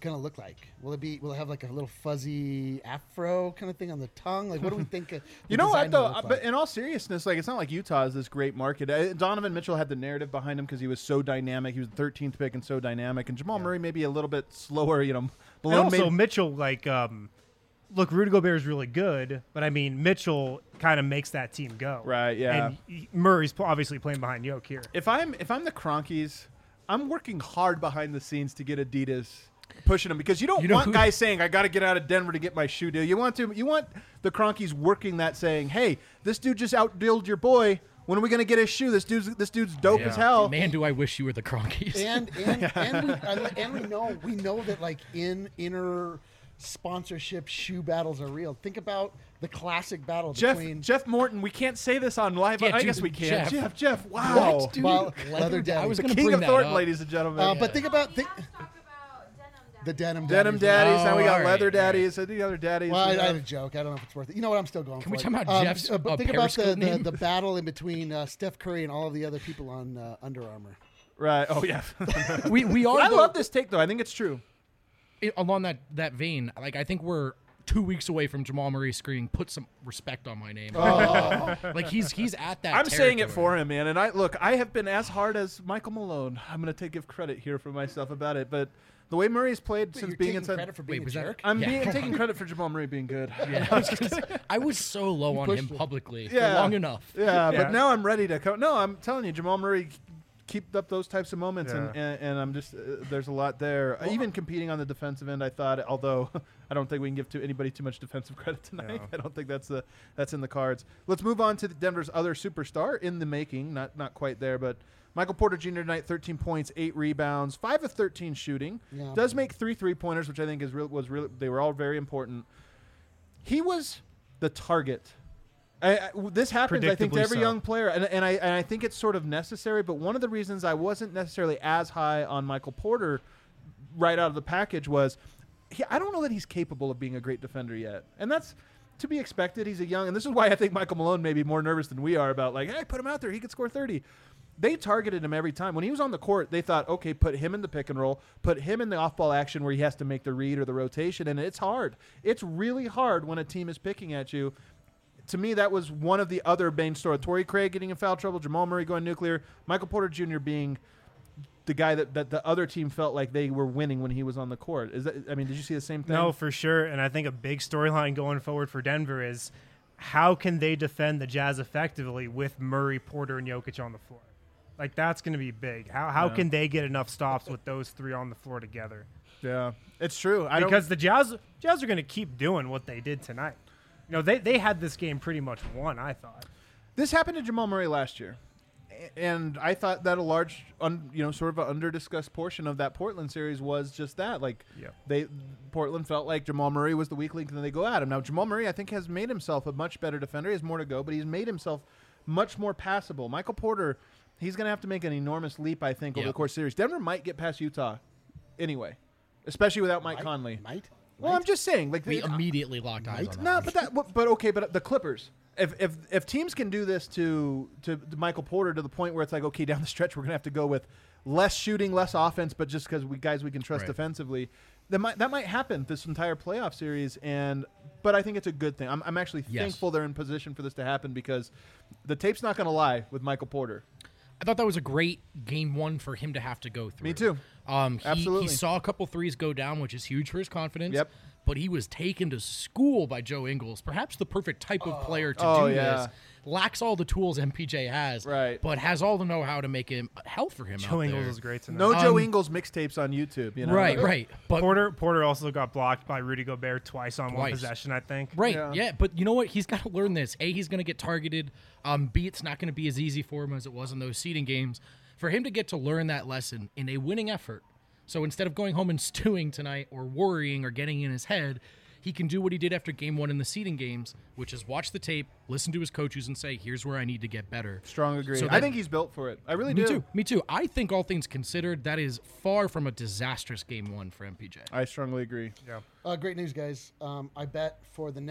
gonna look like? Will it be? Will it have like a little fuzzy afro kind of thing on the tongue? Like, what do we think? Uh, the You know what design though? will look Uh, like? But in all seriousness, like it's not like Utah is this great market. Uh, Donovan Mitchell had the narrative behind him because he was so dynamic. He was the thirteenth pick and so dynamic. And Jamal Murray maybe a little bit slower. You know, And Malone also made- Mitchell, like, um, look, Rudy Gobert is really good, but I mean Mitchell kind of makes that team go. Right, yeah. And he- Murray's pl- obviously playing behind Yoke here. if I'm if I'm the Cronkies, I'm working hard behind the scenes to get Adidas pushing them because you don't You know want who- guys saying I got to get out of Denver to get my shoe deal. You want to you want the Cronkies working that saying, hey, this dude just outdealed your boy. When are we gonna get his shoe? This dude's this dude's dope Yeah. as hell. Man, do I wish you were the Cronkies. and and and, we, and and we know we know that like in inner sponsorship shoe battles are real. Think about the classic battle Jeff between Jeff Morton, we can't say this on live. Yeah, I dude, guess we can. Jeff. Jeff, Jeff, wow. What, dude? Well, Leather Leather Daddy. Daddy. I was The gonna king bring of that Thornton, up. ladies and gentlemen. Uh, but think about You think, guys talk about denim daddies. the denim Denim daddies. daddies. now we Oh, got all right, leather all right. daddies. And the other daddies. Well, I, you I know. had a joke. I don't know if it's worth it. You know what? I'm still going Can for we it. talk about Jeff's, uh, but uh, think about the, Periscope the, name? the battle in between uh, Steph Curry and all of the other people on uh, Under Armour. Right. Oh yeah. we we are I though, love this take though. I think it's true. i- along that that vein. Like I think we're two weeks away from Jamal Murray screaming, "Put some respect on my name." Like he's he's at that. I'm saying it territory. for him, man. And I look, I have been as hard as Michael Malone. I'm going to take give credit here for myself about it, but the way Murray's played Wait, since you're being taking inside, credit for being Wait, was a that- jerk? I'm Yeah. being taking credit for Jamal Murray being good. Yeah, I, was gonna say, I was so low on pushed him it. publicly for Yeah. long enough. Yeah, Yeah. but now I'm ready to come. No, I'm telling you, Jamal Murray keep up those types of moments, and, Yeah. and, and I'm just uh, there's a lot there. Even competing on the defensive end, I thought, although I don't think we can give to anybody too much defensive credit tonight. No. I don't think that's the that's in the cards. Let's move on to the Denver's other superstar in the making. Not not quite there, but Michael Porter Junior tonight, thirteen points, eight rebounds, five of thirteen shooting. Yeah. Does make three three pointers, which I think is real was really they were all very important. He was the target. I, I, this happens, I think, to Predictably every so. young player, and, and, I, and I think it's sort of necessary. But one of the reasons I wasn't necessarily as high on Michael Porter right out of the package was he, I don't know that he's capable of being a great defender yet. And that's to be expected. He's a young, and this is why I think Michael Malone may be more nervous than we are about, like, hey, put him out there. He could score thirty. They targeted him every time. When he was on the court, they thought, okay, put him in the pick and roll, put him in the off-ball action where he has to make the read or the rotation, and it's hard. It's really hard when a team is picking at you. To me, that was one of the other main stories. Torrey Craig getting in foul trouble, Jamal Murray going nuclear, Michael Porter Junior being the guy that, that the other team felt like they were winning when he was on the court. Is that? I mean, did you see the same thing? No, for sure. And I think a big storyline going forward for Denver is how can they defend the Jazz effectively with Murray, Porter, and Jokic on the floor? Like, that's going to be big. How how Yeah. can they get enough stops with those three on the floor together? Yeah, it's true. I Because don't, the Jazz Jazz are going to keep doing what they did tonight. You know, they, they had this game pretty much won, I thought. this happened to Jamal Murray last year, A- and I thought that a large, un, you know, sort of an under-discussed portion of that Portland series was just that. Like, Yeah. they Portland felt like Jamal Murray was the weak link, and then they go at him. Now, Jamal Murray, I think, has made himself a much better defender. He has more to go, but he's made himself much more passable. Michael Porter, he's going to have to make an enormous leap, I think, over Yep. the course of the series. Denver might get past Utah anyway, especially without Mike Might- Conley. Might? Well, I'm just saying, like We they- immediately locked eyes on that. no, one. but that, but, but okay, but the Clippers. If if if teams can do this to, to to Michael Porter to the point where it's like, okay, down the stretch we're gonna have to go with less shooting, less offense, but just because we guys we can trust Right. defensively, that might that might happen this entire playoff series. And but I think it's a good thing. I'm I'm actually Yes. thankful they're in position for this to happen because the tape's not gonna lie with Michael Porter. I thought that was a great game one for him to have to go through. Me too. Um, he, Absolutely. he saw a couple threes go down, which is huge for his confidence. Yep. But he was taken to school by Joe Ingles, perhaps the perfect type of player to Oh, do yeah. this. Lacks all the tools M P J has, Right. but has all the know-how to make him health for him. Joe out Ingles there. is great tonight. No Joe Um, Ingles mixtapes on YouTube. You know, Right, right. But Porter Porter also got blocked by Rudy Gobert twice on one Twice. possession, I think. Right. Yeah. Yeah. But you know what? He's got to learn this. A, he's going to get targeted. Um, B, it's not going to be as easy for him as it was in those seeding games. For him to get to learn that lesson in a winning effort. So instead of going home and stewing tonight or worrying or getting in his head, he can do what he did after game one in the seeding games, which is watch the tape, listen to his coaches, and say, here's where I need to get better. Strong agree. So I that- think he's built for it. I really Me do. too. Me too. I think all things considered, that is far from a disastrous game one for M P J. I strongly agree. Yeah. Uh, great news, guys. Um, I bet for the next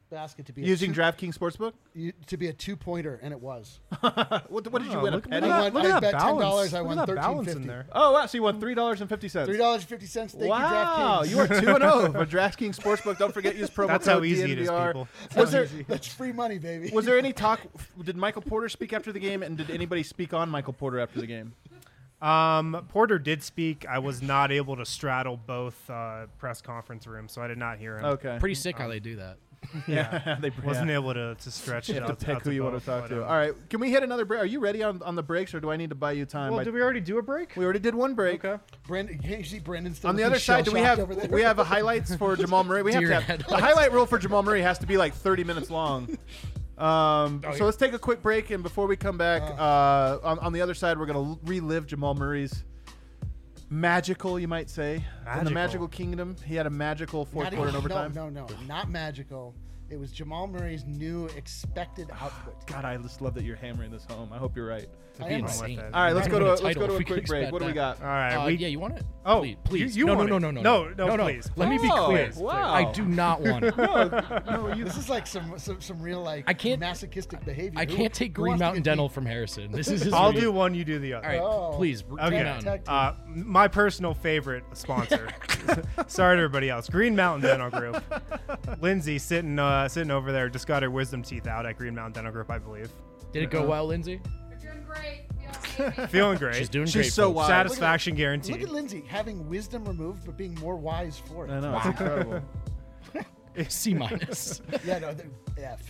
basket to be Using a two, DraftKings Sportsbook? you- to be a two pointer, and it was. what, what did you Oh, win? look, a look penny? at I that, won- look at I that bet ten balance. dollars, I Look won at that thirteen balance in fifty. there. Oh, wow. So you won three dollars and fifty cents. Three dollars and fifty cents. Thank Wow, you, DraftKings. you are two and zero for DraftKings Sportsbook. Don't forget use promo That's code how easy it is, D N V R. people. Was there That's free money, baby. was there any talk? Did Michael Porter speak after the game, and did anybody speak on Michael Porter after the game? Um, Porter did speak. I was not able to straddle both uh, press conference rooms, so I did not hear him. Okay, Pretty sick how they do that. yeah, they Wasn't yeah. able to, to stretch You it have out to pick out who you want both, to talk but, to. um, All right, can we hit another break? Are you ready on, on the breaks, or do I need to buy you time? Well, by- did we already do a break? we already did one break. Okay. Brandon, can't you see Brandon still On the looking other side, do we shell-shocked have over there? we have a highlights for Jamal Murray? We have Deer to have the headlights. highlight reel for Jamal Murray has to be like thirty minutes long. Um, Oh, so yeah. let's take a quick break, and before we come back, uh, on, on the other side, we're gonna relive Jamal Murray's magical, you might say, in the Magical. magical kingdom. He had a magical fourth Not quarter in even- overtime. No, no, no, not magical. It was Jamal Murray's new expected output. God, I just love that you're hammering this home. I hope you're right. It'd I be am with insane. it. All right, let's Not go to even a, let's title go to if a we could quick break. expect What do we that. got? All right. Uh, we, yeah, you want it? Oh, please, please. you no, want no, it. no, no, No, no, no, no, please. Let me be Oh, clear. wow. I do not want it. No, you This is like some some, some real like I can't- masochistic behavior. I Who- can't take who Green wants to Mountain get Dental beat? from Harrison. This is his I'll video. do one. You do the other. All right, Oh. please. Green Okay. Mountain. Tag team. Uh, my personal favorite sponsor. Sorry to everybody else. Green Mountain Dental Group. Lindsay sitting uh, sitting over there just got her wisdom teeth out at Green Mountain Dental Group, I believe. Did it go well, Lindsay? We're doing great. Feel amazing. Feeling great. She's doing She's great. so folks. wise. Satisfaction Look guaranteed. at Lindsay having wisdom removed, but being more wise for it. I know, it's incredible. C minus. Yeah, no, the F.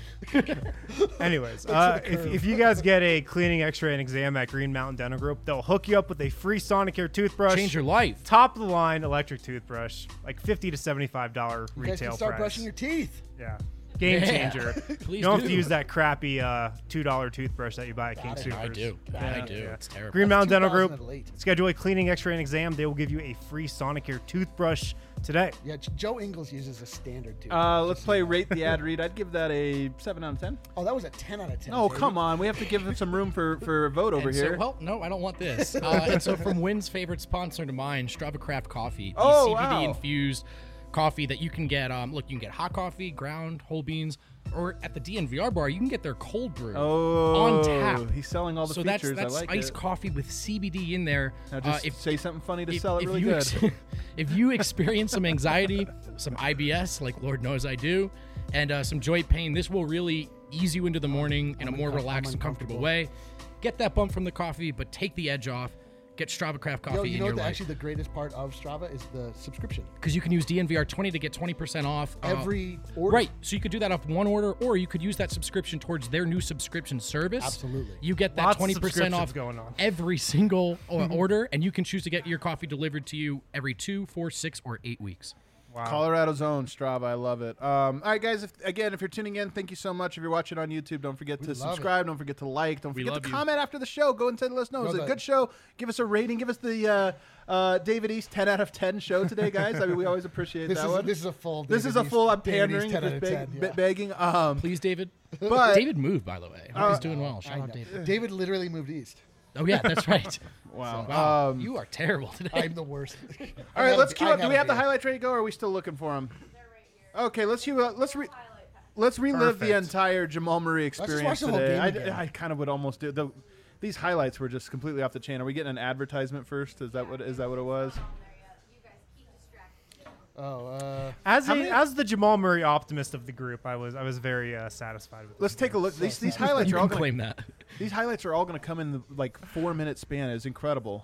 Anyways, Looks uh, like a if, curve. if you guys get a cleaning, X-ray, and exam at Green Mountain Dental Group, they'll hook you up with a free Sonicare toothbrush. Change your life. Top of the line electric toothbrush, like fifty to seventy-five dollar You guys retail can start price. brushing your teeth. Yeah, game Yeah. changer. Please you don't have do. to use that crappy uh, two dollar toothbrush that you buy at King Got it. Soopers. I do. I do. Yeah. It's terrible. Green Mountain Dental two thousand Group. at late. Schedule a cleaning, X-ray, and exam. They will give you a free Sonicare toothbrush today. Yeah, J- Joe Ingles uses a standard too. Uh, let's play rate the ad read. I'd give that a seven out of ten. oh, that was a ten out of ten. Oh, baby. come on. We have to give them some room for, for a vote over And so- here. well, no, I don't want this. Uh, and so, from Wynn's favorite sponsor to mine, Strava Craft Coffee, the Oh, C B D wow. infused coffee that you can get. Um, look, you can get hot coffee, ground, whole beans, or at the D N V R bar, you can get their cold brew oh, on tap. He's selling all the so features. that's that's I like iced it. coffee with C B D in there. Now Uh, just if say something funny to if, sell it if really you good. ex- if you experience some anxiety, some I B S, like Lord knows I do, and uh, some joint pain, this will really ease you into the morning in a more uncom- I'm relaxed and comfortable uncomfortable. way. Get that bump from the coffee, but take the edge off. Get Strava Craft Coffee Yo, you in know your what? The, life. actually, the greatest part of Strava is the subscription. Because you can use D N V R twenty to get twenty percent off. uh, Every order. Right. So you could do that off one order, or you could use that subscription towards their new subscription service. Absolutely. You get that Lots of twenty percent off subscriptions going on. every single uh, order, and you can choose to get your coffee delivered to you every two, four, six, or eight weeks. Wow. Colorado's own Strava. I love it. Um, all right, guys. If, again, if you're tuning in, thank you so much. If you're watching on YouTube, don't forget We to love subscribe. Don't forget to like. Don't We forget love to you. comment after the show. Go and let us know. It was No, a the- good show. Give us a rating. Give us the uh, uh, David East ten out of ten show today, guys. I mean, we always appreciate This that is one. this is a full. This David is a East- full. I'm David East pandering, ten out just of beg- ten, be- yeah. begging. Um, Please, David. but David moved, by the way. Hope Uh, he's doing well. I Shout out, know. David. David literally moved east. Oh yeah, that's right. wow. Wow, Um, you are terrible today. I'm the worst. all right, let's queue up. Do we have the highlights ready to go? Or are we still looking for them? Okay, let's queue up. Let's re- let's relive the Perfect. entire Jamal Murray just watch experience the whole today. game I, again. I kind of would almost do the. These highlights were just completely off the chain. Are we getting an advertisement first? Is that what is that what it was? You guys keep distracting. Oh, uh, As How a, many- as the Jamal Murray optimist of the group, I was I was very uh, satisfied with. Let's this take a game. look. These these highlights you are all can gonna, claim that. these highlights are all going to come in the like four minute span. It's incredible.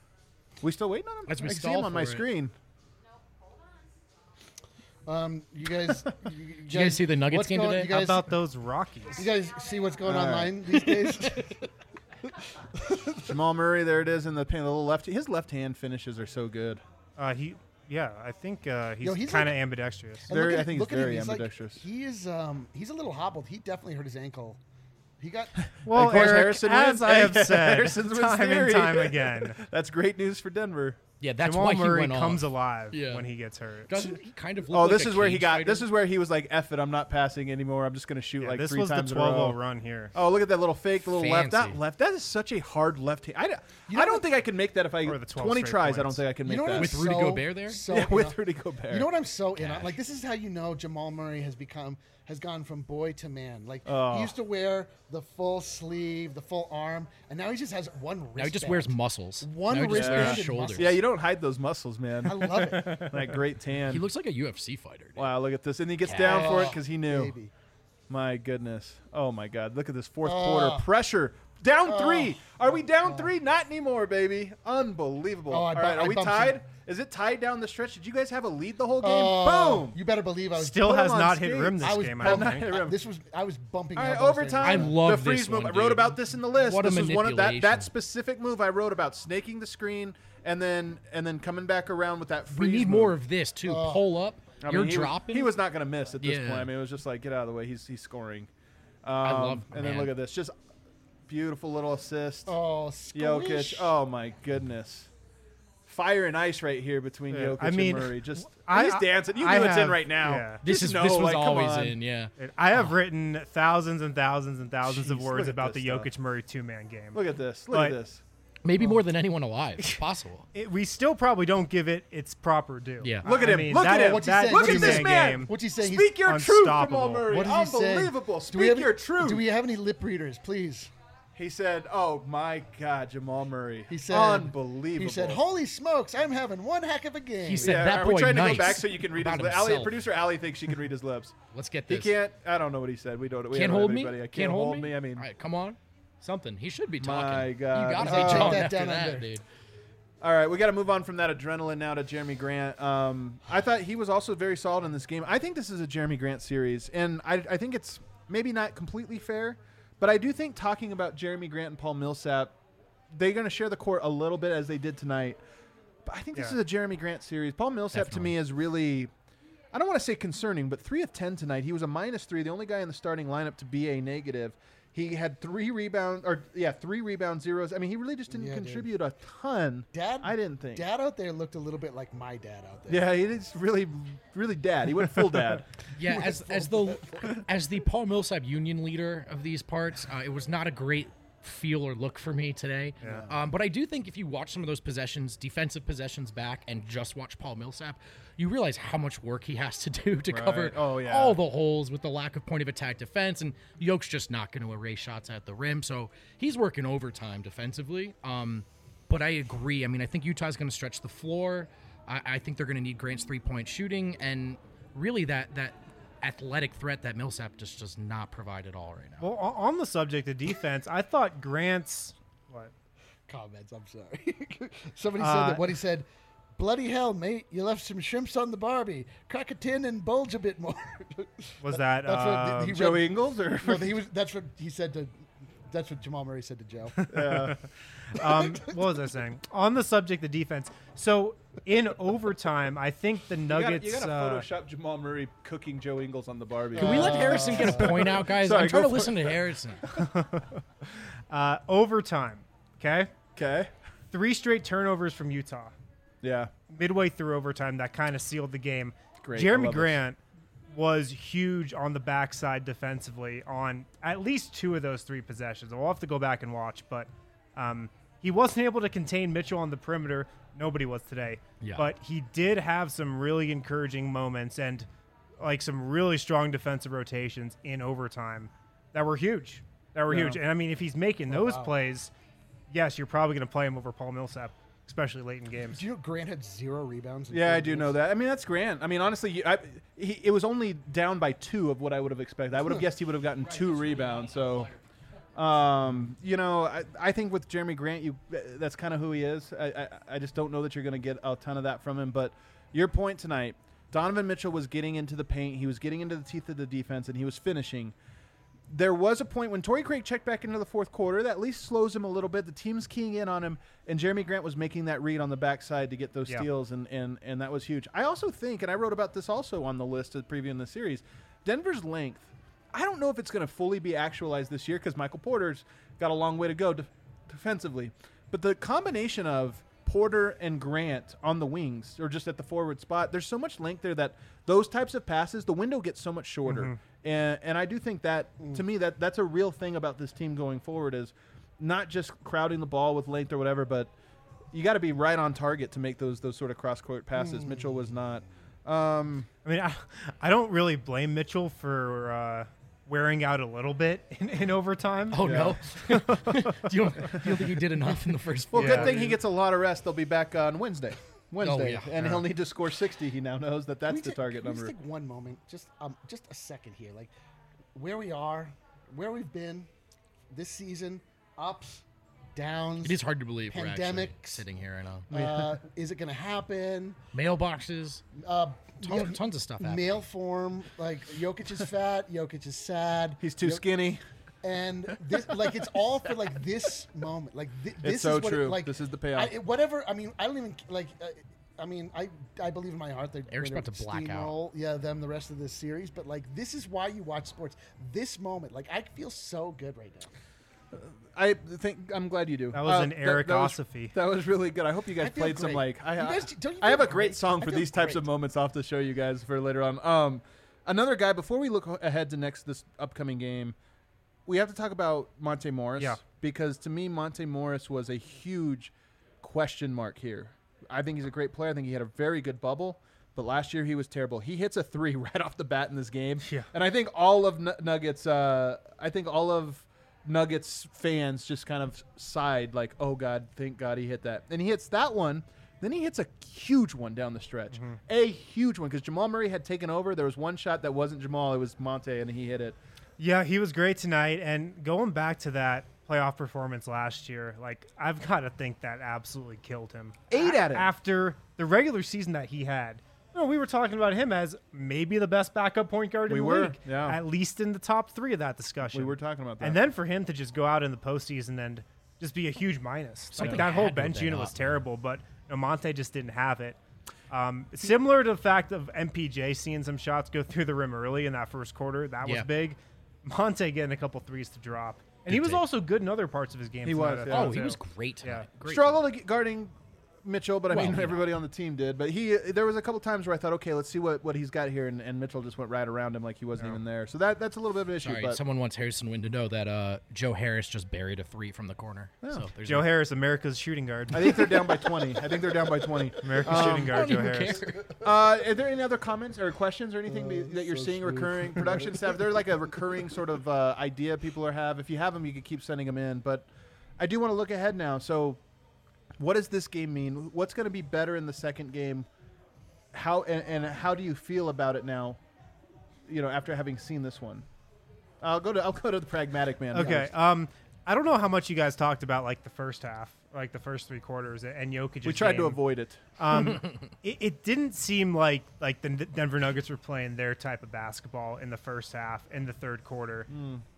We still waiting on them? As we I see stall them on my for it. screen. um, you guys. You, you you guys see the Nuggets what's game going, today? You guys, How about those Rockies? you guys see what's going All right. online these days? Jamal Murray, there it is in the paint. The little left. His left hand finishes are so good. Uh, he, yeah, I think uh, he's, Yo, he's kind of like- ambidextrous. And Very- look at- I think he's look at him, very like- ambidextrous. he is. Um, he's a little hobbled. He definitely hurt his ankle. He got. Well, Of course, Eric, Harrison as wins. I have said Harrison wins time theory. and time again, That's great news for Denver. Yeah, that's Jamal why he Murray went comes off. alive Yeah. when he gets hurt. Doesn't he kind of look Oh, like this a is where he cage got. fighter? This is where he was like, "F it, I'm not passing anymore. I'm just going to shoot Yeah, like this three was the times in a row." twelve oh run here. Oh, look at that little fake, the little left. That Fancy. left. That is such a hard left hand. I, d- You know I don't what- think I can make that if I Or the twelve twenty straight tries. I don't points. think I can You make know what that. I'm With Rudy so, Gobert there? So, yeah, you with know- Rudy Gobert. You know what I'm so in on? Like, this is how you know Jamal Murray has become has gone from boy to man. Like Oh. he used to wear the full sleeve, the full arm, and now he just has one wristband. Now he just wears muscles. One now he just wears wristband and shoulders. muscles. Yeah, you don't hide those muscles, man. I love it. That great tan. He looks like a U F C fighter. Dude. Wow, look at this. And he gets down for it Oh, because he knew. baby. My goodness. Oh, my God. Look at this fourth Oh. quarter. Pressure. Down Oh. three. Are we down three? Not anymore, baby. Unbelievable. Oh, I All bu- right, I are we bumped tied? him. Is it tied down the stretch? Did you guys have a lead the whole game? Oh, Boom. you better believe I was. Still Put has him on not hit skates. rim this I was game. I bumping- don't bumping. think. rim. This was I was bumping. All right, elbows overtime. I love the freeze this move. one, I wrote dude. about this in the list. What a this was one of that, that manipulation. specific move I wrote about, snaking the screen and then and then coming back around with that We freeze need move. more of this too. Oh. Pull up. I You're mean, he dropping. Was, he was not going to miss at this Yeah. point. I mean, it was just like, get out of the way. He's he's scoring. Um, I love- And then man. look at this, just beautiful little assist. Oh, Jokic. squish. Oh my goodness. Fire and ice right here between Yeah, Jokic I mean, and Murray. Just I- he's dancing. You I know it's in have- right now. yeah. This Just is know, this was like, come always on. in. Yeah. I have written thousands and thousands and thousands Jeez, of look words at about this the stuff. Jokic Murray two man game. Look at this. Look But- at this. Maybe more than anyone alive. It's possible. It, we still probably don't give it its proper due. Yeah. Look at I him. mean, Look that, at him. What's he that saying? Look What's at he this two-man man. game- What's he saying? He's- Speak your truth, Jamal unstoppable. Murray. What does he say? Unbelievable. Do we Speak have your any, truth. Do we have any lip readers, please? He said, "Oh my God, Jamal Murray. He said, unbelievable." He said, "Holy smokes, I'm having one heck of a game." He said, Yeah, that are boy we trying nice to go back so you can read his about lips? Allie, himself. producer Allie thinks she can read his lips. Let's get He this. can't. I don't know what he said. We don't. We Can't don't hold have me. anybody. I Can't hold me. I mean, All right, come on. Something. He should be My talking. God. You gotta Oh. be Take talking that after down that, under. dude. all right, we got to move on from that adrenaline now to Jeremy Grant. Um, I thought he was also very solid in this game. I think this is a Jeremy Grant series, and I, I think it's maybe not completely fair, but I do think talking about Jeremy Grant and Paul Millsap, they're going to share the court a little bit as they did tonight. But I think this Yeah. is a Jeremy Grant series. Paul Millsap to me is really, I don't want to say concerning, but three of ten tonight. He was a minus three, the only guy in the starting lineup to be a negative. He had three rebounds, or yeah, three rebound zeros. I mean, he really just didn't Yeah, dude. contribute a ton. Dad, I didn't think. Dad out there looked a little bit like my dad out there. Yeah, he is really, really dad. He went full dad. Yeah, as as the as the Paul Millsap union leader of these parts, uh, it was not a great feel or look for me today. Um, but I do think if you watch some of those possessions, defensive possessions back, and just watch Paul Millsap, you realize how much work he has to do to cover Oh, yeah. all the holes with the lack of point of attack defense. And Yoke's just not going to erase shots at the rim, so he's working overtime defensively. Um, but I agree. I mean, I think Utah's going to stretch the floor. I, I think they're going to need Grant's three-point shooting, and really that that athletic threat that Millsap just does not provide at all right now. Well, o- on the subject of defense, I thought Grant's what? Comments. I'm sorry. Somebody Uh, said that what he said. Bloody hell, mate! You left some shrimps on the Barbie. Crack a tin and bulge a bit more. Was that That's what um, he read- Joe Ingles or No, he was. That's what he said to. That's what Jamal Murray said to Joe. um, what was I saying? On the subject of defense, so in overtime, I think the You gotta, Nuggets. you gotta uh, Photoshop Jamal Murray cooking Joe Ingles on the Barbie. Can we let Harrison get a point out, guys? Sorry, I'm trying go to for listen to Harrison. uh, overtime, okay, Okay. three straight turnovers from Utah. Yeah. Midway through overtime, that kind of sealed the game. Great, I Jeremy love it. Grant was huge on the backside defensively on at least two of those three possessions. We'll have to go back and watch, but um, he wasn't able to contain Mitchell on the perimeter. Nobody was today. Yeah. But he did have some really encouraging moments and like some really strong defensive rotations in overtime that were huge. That were Yeah. huge. And I mean, if he's making those wow. plays, yes, you're probably going to play him over Paul Millsap, especially late in games. Do you know Grant had zero rebounds? in Yeah, four I do games? know that. I mean, that's Grant. I mean, honestly, you- I, he, it was only down by two of what I would have expected. I would have guessed he would have gotten two rebounds. So, um, you know, I, I think with Jeremy Grant, you that's kind of who he is. I, I, I just don't know that you're going to get a ton of that from him. But your point tonight, Donovan Mitchell was getting into the paint. He was getting into the teeth of the defense, and he was finishing. There was a point when Torrey Craig checked back into the fourth quarter that at least slows him a little bit. The team's keying in on him, and Jeremy Grant was making that read on the backside to get those Yeah. steals, and, and, and that was huge. I also think, and I wrote about this also on the list of previewing the series, Denver's length. I don't know if it's going to fully be actualized this year because Michael Porter's got a long way to go de- defensively. But the combination of Porter and Grant on the wings or just at the forward spot, there's so much length there that those types of passes, the window gets so much shorter. Mm-hmm. And and I do think that, to me, that that's a real thing about this team going forward is not just crowding the ball with length or whatever, but you got to be right on target to make those those sort of cross-court passes. Mitchell was not. Um, I mean, I, I don't really blame Mitchell for uh, wearing out a little bit in, in overtime. Oh no! do, you don't, you don't think he did enough in the first? well, Yeah. good thing he gets a lot of rest. They'll be back on Wednesday. Wednesday, yeah. and Yeah. he'll need to score sixty. He now knows that that's Can we the ta- target can we number. just take one moment, just um, just a second here, like where we are, where we've been this season, ups, downs. It is hard to believe we're actually Pandemics. sitting here right now. Uh, is it going to happen? Mailboxes, Uh, tons, yeah, tons of stuff happening. Mail form, like Jokic is fat, Jokic is sad. He's too Jo- skinny. and this, like, it's all for like this moment. Like thi- this so is what true. It, like This is the payoff. I, whatever. I mean, I don't even like. Uh, I mean, I I believe in my heart that Eric's they're about to black out. steamroll, yeah, them the rest of this series. But like, this is why you watch sports. This moment, like, I feel so good right now. I think I'm glad you do. That was Uh, an Eric that was- Osophy. That was really good. I hope you guys I feel played some great. like I, You I- guys- don't you I have feel a great great? song I for feel these types of great. moments. I'll have to show you guys for later on. Um, another guy before we look ahead to next this upcoming game, we have to talk about Monte Morris. Yeah. Because to me, Monte Morris was a huge question mark here. I think he's a great player. I think he had a very good bubble. But last year he was terrible. He hits a three right off the bat in this game. Yeah. And I think all of N- Nuggets, uh, I think all of Nuggets fans just kind of sighed like, oh, God, thank God he hit that. And he hits that one. Then he hits a huge one down the stretch. Mm-hmm. A huge one because Jamal Murray had taken over. There was one shot that wasn't Jamal. It was Monte, and he hit it. Yeah, he was great tonight. And going back to that playoff performance last year, like, I've got to think that absolutely killed him. Ate at him. After the regular season that he had. You know, we were talking about him as maybe the best backup point guard in We the were, league. yeah. At least in the top three of that discussion. We were talking about that. And then for him to just go out in the postseason and just be a huge minus. Something like that whole had to have bench been unit was up. terrible, but you know, Monte just didn't have it. Um, similar to the fact of M P J seeing some shots go through the rim early in that first quarter, that was Yeah. big. Monte getting a couple threes to drop. And he was take. also good in other parts of his game. He tonight, was, I yeah. thought, Oh, he too. was great tonight. Yeah. Great Struggled ag- guarding Mitchell, but I Well, mean you know. everybody on the team did. But he, there was a couple times where I thought, okay, let's see what, what he's got here, and, and Mitchell just went right around him like he wasn't even there. So that that's a little bit of an issue. Sorry, but someone wants Harrison Wind to know that uh, Joe Harris just buried a three from the corner. So there's Joe no- Harris, America's shooting guard. I think they're down by twenty. I think they're down by twenty. America's Um, shooting I guard, don't Joe even Harris. care. Uh, are there any other comments or questions or anything be- that you're so seeing smooth. recurring production staff? They're like a recurring sort of uh, idea people are have. If you have them, you can keep sending them in. But I do want to look ahead now. So, what does this game mean? What's going to be better in the second game? How and, and how do you feel about it now? You know, after having seen this one, I'll go to I'll go to the pragmatic man. Okay. first. Um, I don't know how much you guys talked about like the first half, like the first three quarters, and Jokic. we tried to avoid it. Um, it, it didn't seem like like the N- Denver Nuggets were playing their type of basketball in the first half, in the third quarter.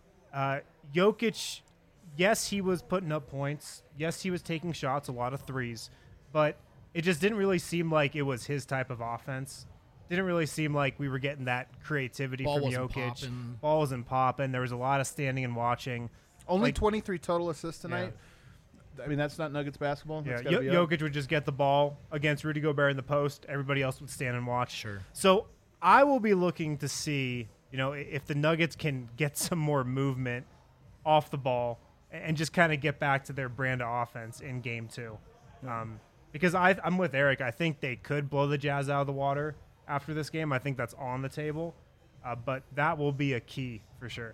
Uh, Jokic, yes, he was putting up points. Yes, he was taking shots, a lot of threes, but it just didn't really seem like it was his type of offense. Didn't really seem like we were getting that creativity Ball from wasn't Jokic. popping. Ball wasn't popping. There was a lot of standing and watching. Only like- twenty-three total assists tonight. I mean, that's not Nuggets basketball. Yeah, That's gotta Yo- be up. Jokic would just get the ball against Rudy Gobert in the post. Everybody else would stand and watch. Sure. So I will be looking to see, you know, i- if the Nuggets can get some more movement off the ball and just kind of get back to their brand of offense in game two. Um, because I, I'm with Eric. I think they could blow the Jazz out of the water after this game. I think that's on the table. Uh, but that will be a key for sure.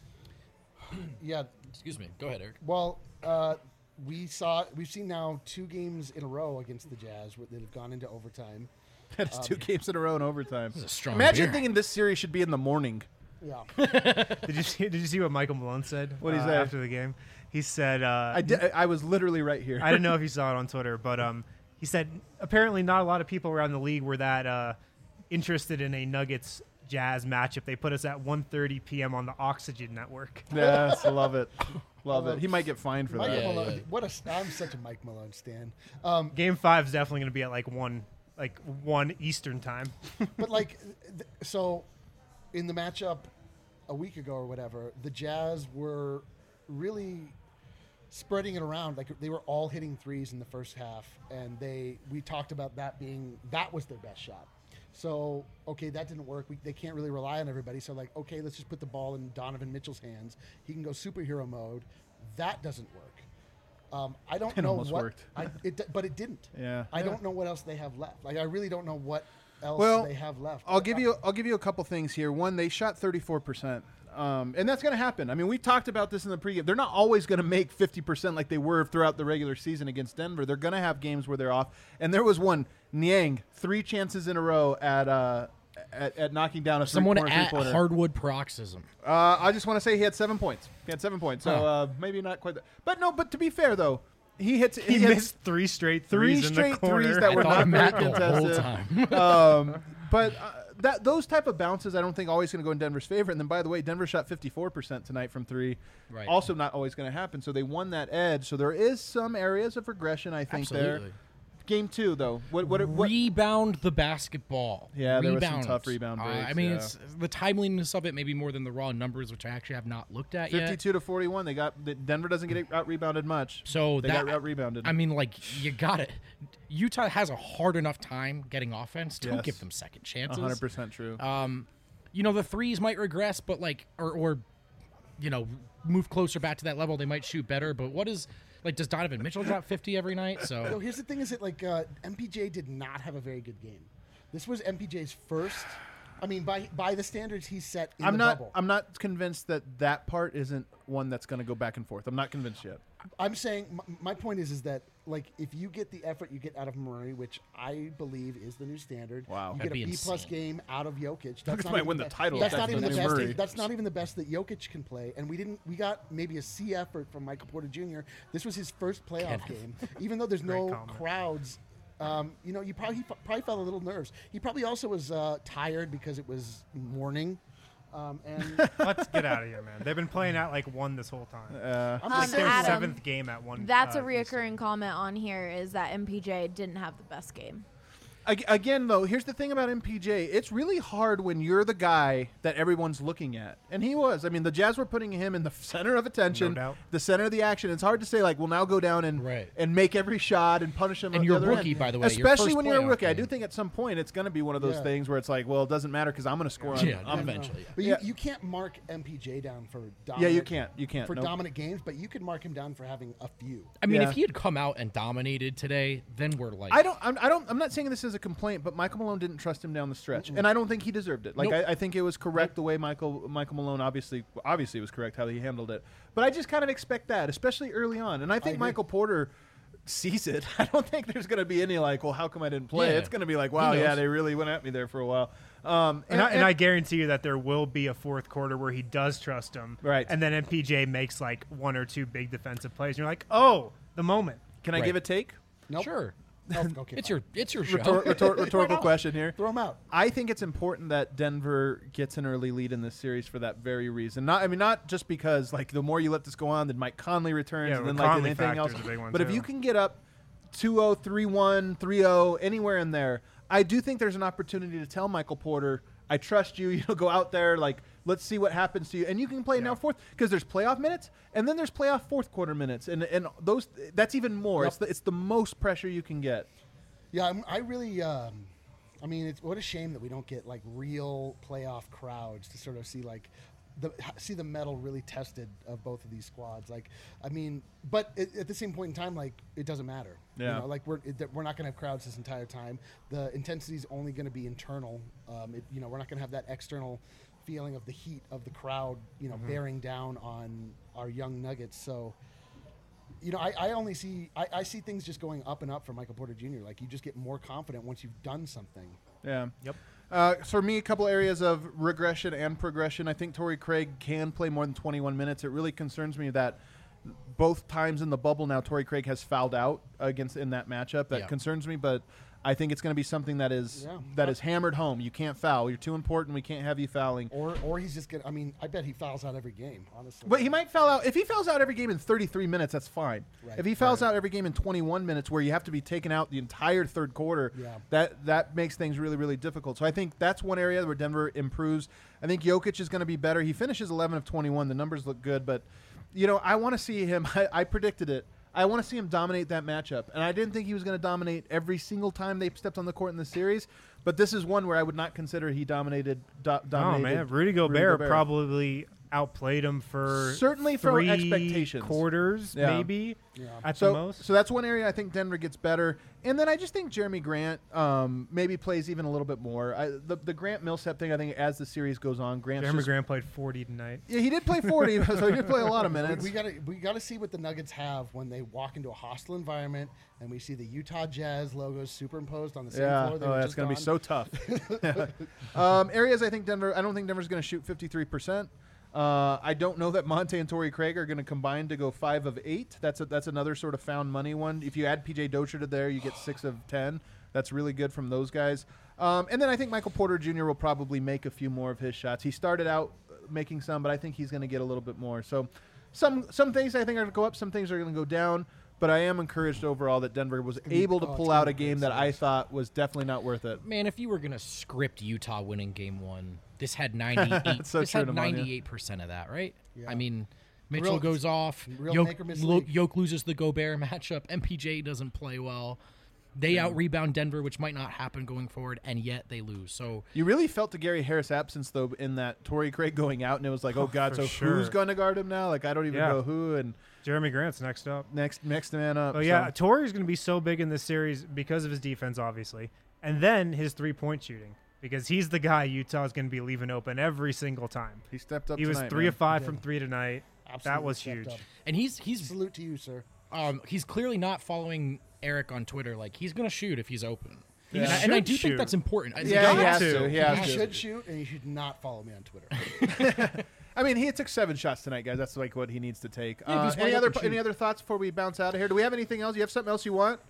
Yeah. Excuse me. Go ahead, Eric. Well, uh, we saw we've seen now two games in a row against the Jazz where that have gone into overtime. That's two games in a row in overtime. is a strong Imagine beer. thinking this series should be in the morning. Yeah. Did you see? Did you see what Michael Malone said? What'd he uh, say? after the game? He said, uh, I, did, I was literally right here. I didn't know if you saw it on Twitter, but um, he said apparently not a lot of people around the league were that uh, interested in a Nuggets Jazz matchup. They put us at one thirty p.m. on the Oxygen Network. Yes, I love it. Love Uh, it. He might get fined for Mike that. Yeah, Malone. yeah. What a! I'm such a Mike Malone stan. Um, Game five is definitely going to be at like one, like one Eastern time. but like, th- so in the matchup a week ago or whatever, the Jazz were really spreading it around. Like they were all hitting threes in the first half, and they we talked about that being that was their best shot. So okay, that didn't work. We, they can't really rely on everybody. So like, okay, let's just put the ball in Donovan Mitchell's hands. He can go superhero mode. That doesn't work. Um, I don't It know almost what, worked. I, it, d- but it didn't. Yeah. I don't know what else they have left. Like I really don't know what else Well, they have left. I'll give you I'll give you a couple things here. One, they shot thirty-four percent. Um, and that's going to happen. I mean, we talked about this in the pregame. They're not always going to make fifty percent like they were throughout the regular season against Denver. They're going to have games where they're off. And there was one, Niang, three chances in a row at uh, at, at knocking down a Someone three-corner at three-pointer. hardwood paroxysm. Uh, I just want to say he had seven points. He had seven points. So Huh. uh, maybe not quite that. But no, but to be fair, though, he hits. He, hits missed three straight three threes in straight the corner. threes that I were thought not of very Matt the whole contested. time. um, but uh, that those type of bounces, I don't think always going to go in Denver's favor. And then, by the way, Denver shot fifty-four percent tonight from three. Right. Also, not always going to happen. So they won that edge. So there is some areas of regression, I think. Absolutely. There. Game two, though. What? What? what Rebound the basketball. Yeah, there was some Rebound tough it. rebound Uh, breaks, I mean, yeah. it's the timeliness of it, maybe more than the raw numbers, which I actually have not looked at yet. fifty-two to forty-one. They got the- Denver doesn't get out rebounded much. So they that got out rebounded. I mean, like you got it. Utah has a hard enough time getting offense. Don't Yes. give them second chances. one hundred percent true. Um, you know, the threes might regress, but like, or, or, you know, move closer back to that level. They might shoot better. But what is, like, does Donovan Mitchell drop fifty every night? So So here's the thing: is that like uh, M P J did not have a very good game. This was M P J's first. I mean, by by the standards he set in I'm the not. bubble. I'm not convinced that that part isn't one that's going to go back and forth. I'm not convinced yet. I'm saying my, my point is is that like if you get the effort you get out of Murray, which I believe is the new standard. Wow. you That'd get a be B plus insane. game out of Jokic. That's Nuggets not might even win the best- title That's if not that's even the the new best. Murray. That, that's not even the best that Jokic can play. And we didn't. We got maybe a C effort from Michael Porter Junior This was his first playoff Kenneth. game, even though there's no comment. crowds. Um, you know, you probably he probably felt a little nerves. He probably also was uh, tired because it was morning. Um, and Let's get out of here, man. They've been playing at like one this whole time. Uh, I'm like just their saying, Adam, seventh game at one. That's uh, a reoccurring comment on here is that M P J didn't have the best game. Ag- Again, though, here's the thing about M P J. It's really hard when you're the guy that everyone's looking at. And he was. I mean, the Jazz were putting him in the center of attention, No doubt. the center of the action. It's hard to say, like, well, now go down and Right. and make every shot and punish him And at you're the a other rookie, end. by the way, your Especially first when you're a playoff rookie. I do game. think at some point it's going to be one of those Yeah. things where it's like, well, it doesn't matter because I'm going to score on Yeah, I'm- eventually. But Yeah. you, you can't mark M P J down for dominant. Yeah, you can't. You can't. for Nope. dominant games, but you could mark him down for having a few. I mean, Yeah. if he had come out and dominated today, then we're like, I don't. I'm, I don't. I'm not saying this as a complaint, but Michael Malone didn't trust him down the stretch, and I don't think he deserved it. Like Nope. I, I think it was correct the way Michael Michael Malone obviously obviously was correct how he handled it. But I just kind of expect that, especially early on, and I think agree. Michael Porter sees it. I don't think there's going to be any like, well, how come I didn't play? Yeah. It's going to be like, wow, He yeah, knows. they really went at me there for a while. Um, And, I, and I guarantee you that there will be a fourth quarter where he does trust him. Right. And then M P J makes like one or two big defensive plays. And you're like, oh, the moment. can I Right. give a take? Nope. sure, Oh, okay, it's fine. your it's your show. Rhetor- rhetor- rhetorical question here. Throw him out. I think it's important that Denver gets an early lead in this series for that very reason. Not, I mean, not just because like the more you let this go on, then Mike Conley returns, Yeah, and the then like Conley anything else. factor's a big one, But if too. you can get up two oh, three one, three oh, anywhere in there, I do think there's an opportunity to tell Michael Porter, I trust you. You know, go out there, like let's see what happens to you, and you can play now fourth because there's playoff minutes, and then there's playoff fourth quarter minutes, and and those that's even more. Yep. It's the, it's the most pressure you can get. Yeah, I'm, I really. Um, I mean, it's what a shame that we don't get like real playoff crowds to sort of see like the see the metal really tested of both of these squads. Like, I mean, but at, at the same point in time, like it doesn't matter. Yeah. You know, like we're it, we're not going to have crowds this entire time. The intensity is only going to be internal. Um, it, you know, we're not going to have that external feeling of the heat of the crowd. You know, bearing down on our young Nuggets. So. You know, I, I only see I, I see things just going up and up for Michael Porter Junior Like you just get more confident once you've done something. Yeah. Yep. Uh, so for me, a couple areas of regression and progression. I think Torrey Craig can play more than twenty-one minutes. It really concerns me that both times in the bubble now, Torrey Craig has fouled out against in that matchup. That Yeah. concerns me, but I think it's going to be something that is Yeah. that is hammered home. You can't foul. You're too important. We can't have you fouling. Or or he's just gonna I mean, I bet he fouls out every game, honestly. But he might foul out. If he fouls out every game in thirty-three minutes, that's fine. Right. If he fouls out every game in twenty-one minutes, where you have to be taken out the entire third quarter, Yeah. that that makes things really, really difficult. So I think that's one area where Denver improves. I think Jokic is going to be better. He finishes eleven of twenty-one. The numbers look good, but you know, I want to see him. I, I predicted it. I want to see him dominate that matchup, and I didn't think he was going to dominate every single time they stepped on the court in the series. But this is one where I would not consider he dominated. Do, Oh dominated man, Rudy Gobert, Gobert. probably outplayed them for Certainly from three expectations. quarters, Yeah. maybe Yeah. at So, the most. so that's one area I think Denver gets better. And then I just think Jeremy Grant um, maybe plays even a little bit more. I, the, the Grant Millsap thing, I think as the series goes on, Grant's Jeremy just, Grant played forty tonight. Yeah, he did play forty, so he did play a lot of minutes. We gotta we gotta see what the Nuggets have when they walk into a hostile environment and we see the Utah Jazz logos superimposed on the same Yeah, floor. They oh, were that's just going to be on. so tough. um, areas I think Denver, I don't think Denver's going to shoot fifty-three percent. Uh, I don't know that Monte and Torrey Craig are going to combine to go five of eight. That's a, that's another sort of found money one. If you add P J Dozier to there, you get six of ten. That's really good from those guys. Um, and then I think Michael Porter Junior will probably make a few more of his shots. He started out making some, but I think he's going to get a little bit more. So some some things I think are going to go up, some things are going to go down. But I am encouraged overall that Denver was able to oh, it's pull gonna out be a great game that I series. thought was definitely not worth it. Man, if you were gonna script Utah winning Game One, this had ninety-eight. so this true, had Nemanja. ninety-eight percent of that, right? Yeah. I mean, Mitchell Real- goes off. real Yoke, make or miss Lo- league. Yoke loses the Gobert matchup. M P J doesn't play well. They out rebound Denver, which might not happen going forward, and yet they lose. So You really felt the Gary Harris absence, though, in that Torrey Craig going out, and it was like, oh, God, for so sure. who's going to guard him now? Like, I don't even Yeah. know who, and Jeremy Grant's next up. next next man up. Oh yeah, so- Torrey's going to be so big in this series because of his defense, obviously, and then his three-point shooting because he's the guy Utah is going to be leaving open every single time. he stepped up He was tonight, three man. of five He from did. three tonight. Absolutely that was stepped huge. up. and he's he's Salute to you, sir. um he's clearly not following Eric on Twitter. Like he's gonna shoot if he's open. He and, I, and I should do shoot. think that's important. I- Yeah, like, he got has to. to. He You has to. should shoot, and you should not follow me on Twitter. I mean, he took seven shots tonight, guys. That's like what he needs to take. Yeah, if uh, he's any wide other open, any shoot. other thoughts before we bounce out of here? Do we have anything else? You have something else you want?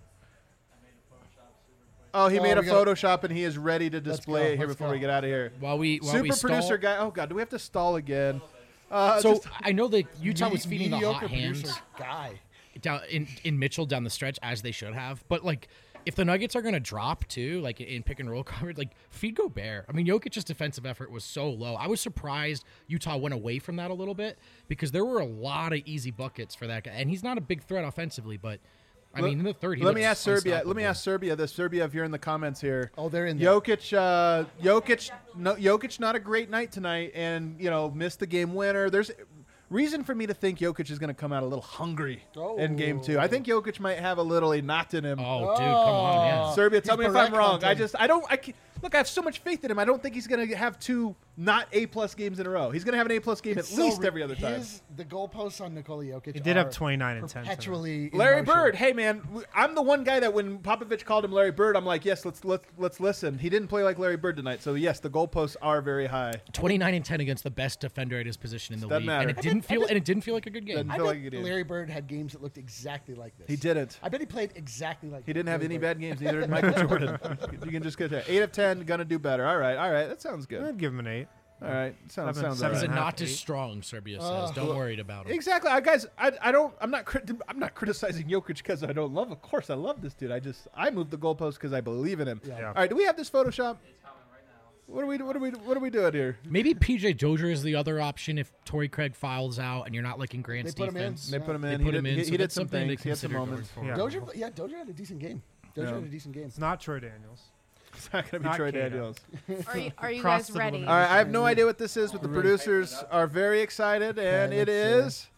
Oh, he Oh, made a we gotta- Photoshop and he is ready to display go, it here let's before go. we get out of here. While we while Super we stall, producer guy. Oh God, do we have to stall again? Uh, So just- I know that Utah Me- was feeding the mediocre hot hands producer guy. down in, in Mitchell down the stretch as they should have. But like, if the Nuggets are going to drop too, like in pick and roll coverage, like feed Gobert. I mean, Jokic's defensive effort was so low. I was surprised Utah went away from that a little bit because there were a lot of easy buckets for that guy, and he's not a big threat offensively. But I mean, in the third, he let me looks ask Serbia. Let me unstoppable. ask Serbia this. Serbia, if you're in the comments here. Oh, they're in there. Jokic, uh, Jokic, no, Jokic, not a great night tonight, and you know missed the game winner. There's reason for me to think Jokic is going to come out a little hungry in game two. I think Jokic might have a little a knot in him. Oh, dude, come on, yeah. Serbia, tell He's me if I'm Barrett wrong. I hunting. just, I don't, I can, look. I have so much faith in him. I don't think he's going to have two not A plus games in a row. He's going to have an A plus game It's at so least re- every other time. his- The goalposts on Nikola Jokic. He did have are twenty-nine and ten tonight. Perpetually. in Larry motion. Bird, hey man, w- I'm the one guy that when Popovich called him Larry Bird, I'm like, yes, let's let's let's listen. He didn't play like Larry Bird tonight, so yes, the goalposts are very high. twenty-nine and ten against the best defender at his position in the Doesn't league, matter. and it didn't feel and it didn't feel like a good game. Doesn't I feel bet like he did. Larry Bird had games that looked exactly like this. He didn't. I bet he played exactly like. He didn't have Larry any Bird. bad games. Neither did Michael Jordan. You can just get that. Eight of ten, gonna do better. All right, all right, that sounds good. I'd give him an eight. All right, sounds Seven- sounds seven all He's right. a and a half, not as eight. strong, Serbia says. Uh, Don't worry about him. Exactly, I, guys. I, I don't. I'm not. Crit- I'm not criticizing Jokic because I don't love. Of course, I love this dude. I just I moved the goalpost because I believe in him. Yeah. Yeah. All right, do we have this Photoshop? It's coming right now. What are we? What are we? What are we doing here? Maybe P J Dozier is the other option if Torrey Craig fouls out and you're not liking Grant's They put him in. defense. They put him They in. put he him did, in, He, so he did that's some something to things. He had some consider going moments. forward. Yeah. Dozier, yeah, Dozier had a decent game. Dozier Yeah. had a decent game. It's not Troy Daniels. It's not going to be Not Troy Kato. Daniels. Are you, are you Cross guys the ready? limit. All right, I have no idea what this is, but the producers are very excited, and Okay, it let's is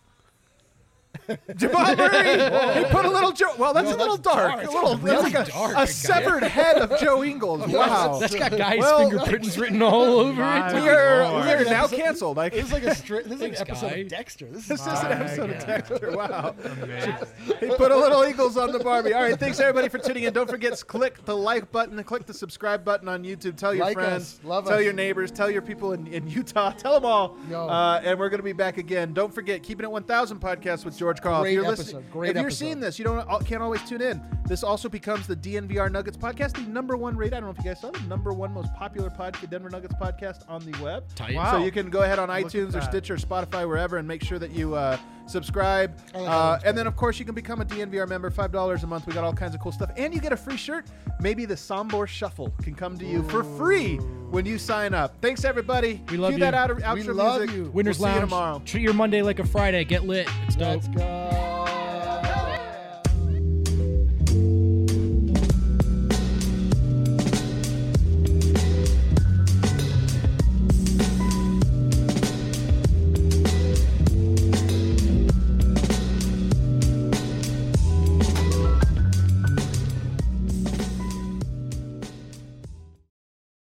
Jamal Murray. He put a little Joe. Well, that's No, a little that's dark. dark. A little Really that's like a, dark, a guy. severed head of Joe Ingles. Wow. That's got guys' Well, fingerprints written all over My it. we are Lord. we are now Episode- canceled. I This is like a stri- this is like an Thanks, episode guy. of Dexter. This This is is an My episode of God. Dexter. Wow. Amazing. He put a little Eagles on the Barbie. All right, thanks everybody for tuning in. Don't forget to click the like button and click the subscribe button on YouTube. Tell your Like friends, us. Love tell us. your neighbors, tell your people in, in Utah. Tell them all. Yo. Uh, and we're going to be back again. Don't forget, Keeping It one thousand podcast with George Carl. Great if you're episode. listening, Great if you're episode. seeing this, you don't can't always tune in. This also becomes the D N V R Nuggets podcast, the number one rated. I don't know if you guys saw the number one most popular podcast, Denver Nuggets podcast on the web. Tight. Wow. So you can go ahead on Look at iTunes or that. Stitcher, Spotify, wherever, and make sure that you uh, subscribe. I like Uh, that. and then, of course, you can become a D N V R member, five dollars a month. We got all kinds of cool stuff. And you get a free shirt. Maybe the Sombor Shuffle can come to you for free when you sign up. Thanks, everybody. We love Cue you. that out, outro We love music. you. Winners we'll see you Lounge. tomorrow. Treat your Monday like a Friday. Get lit. It's dope. Let's go.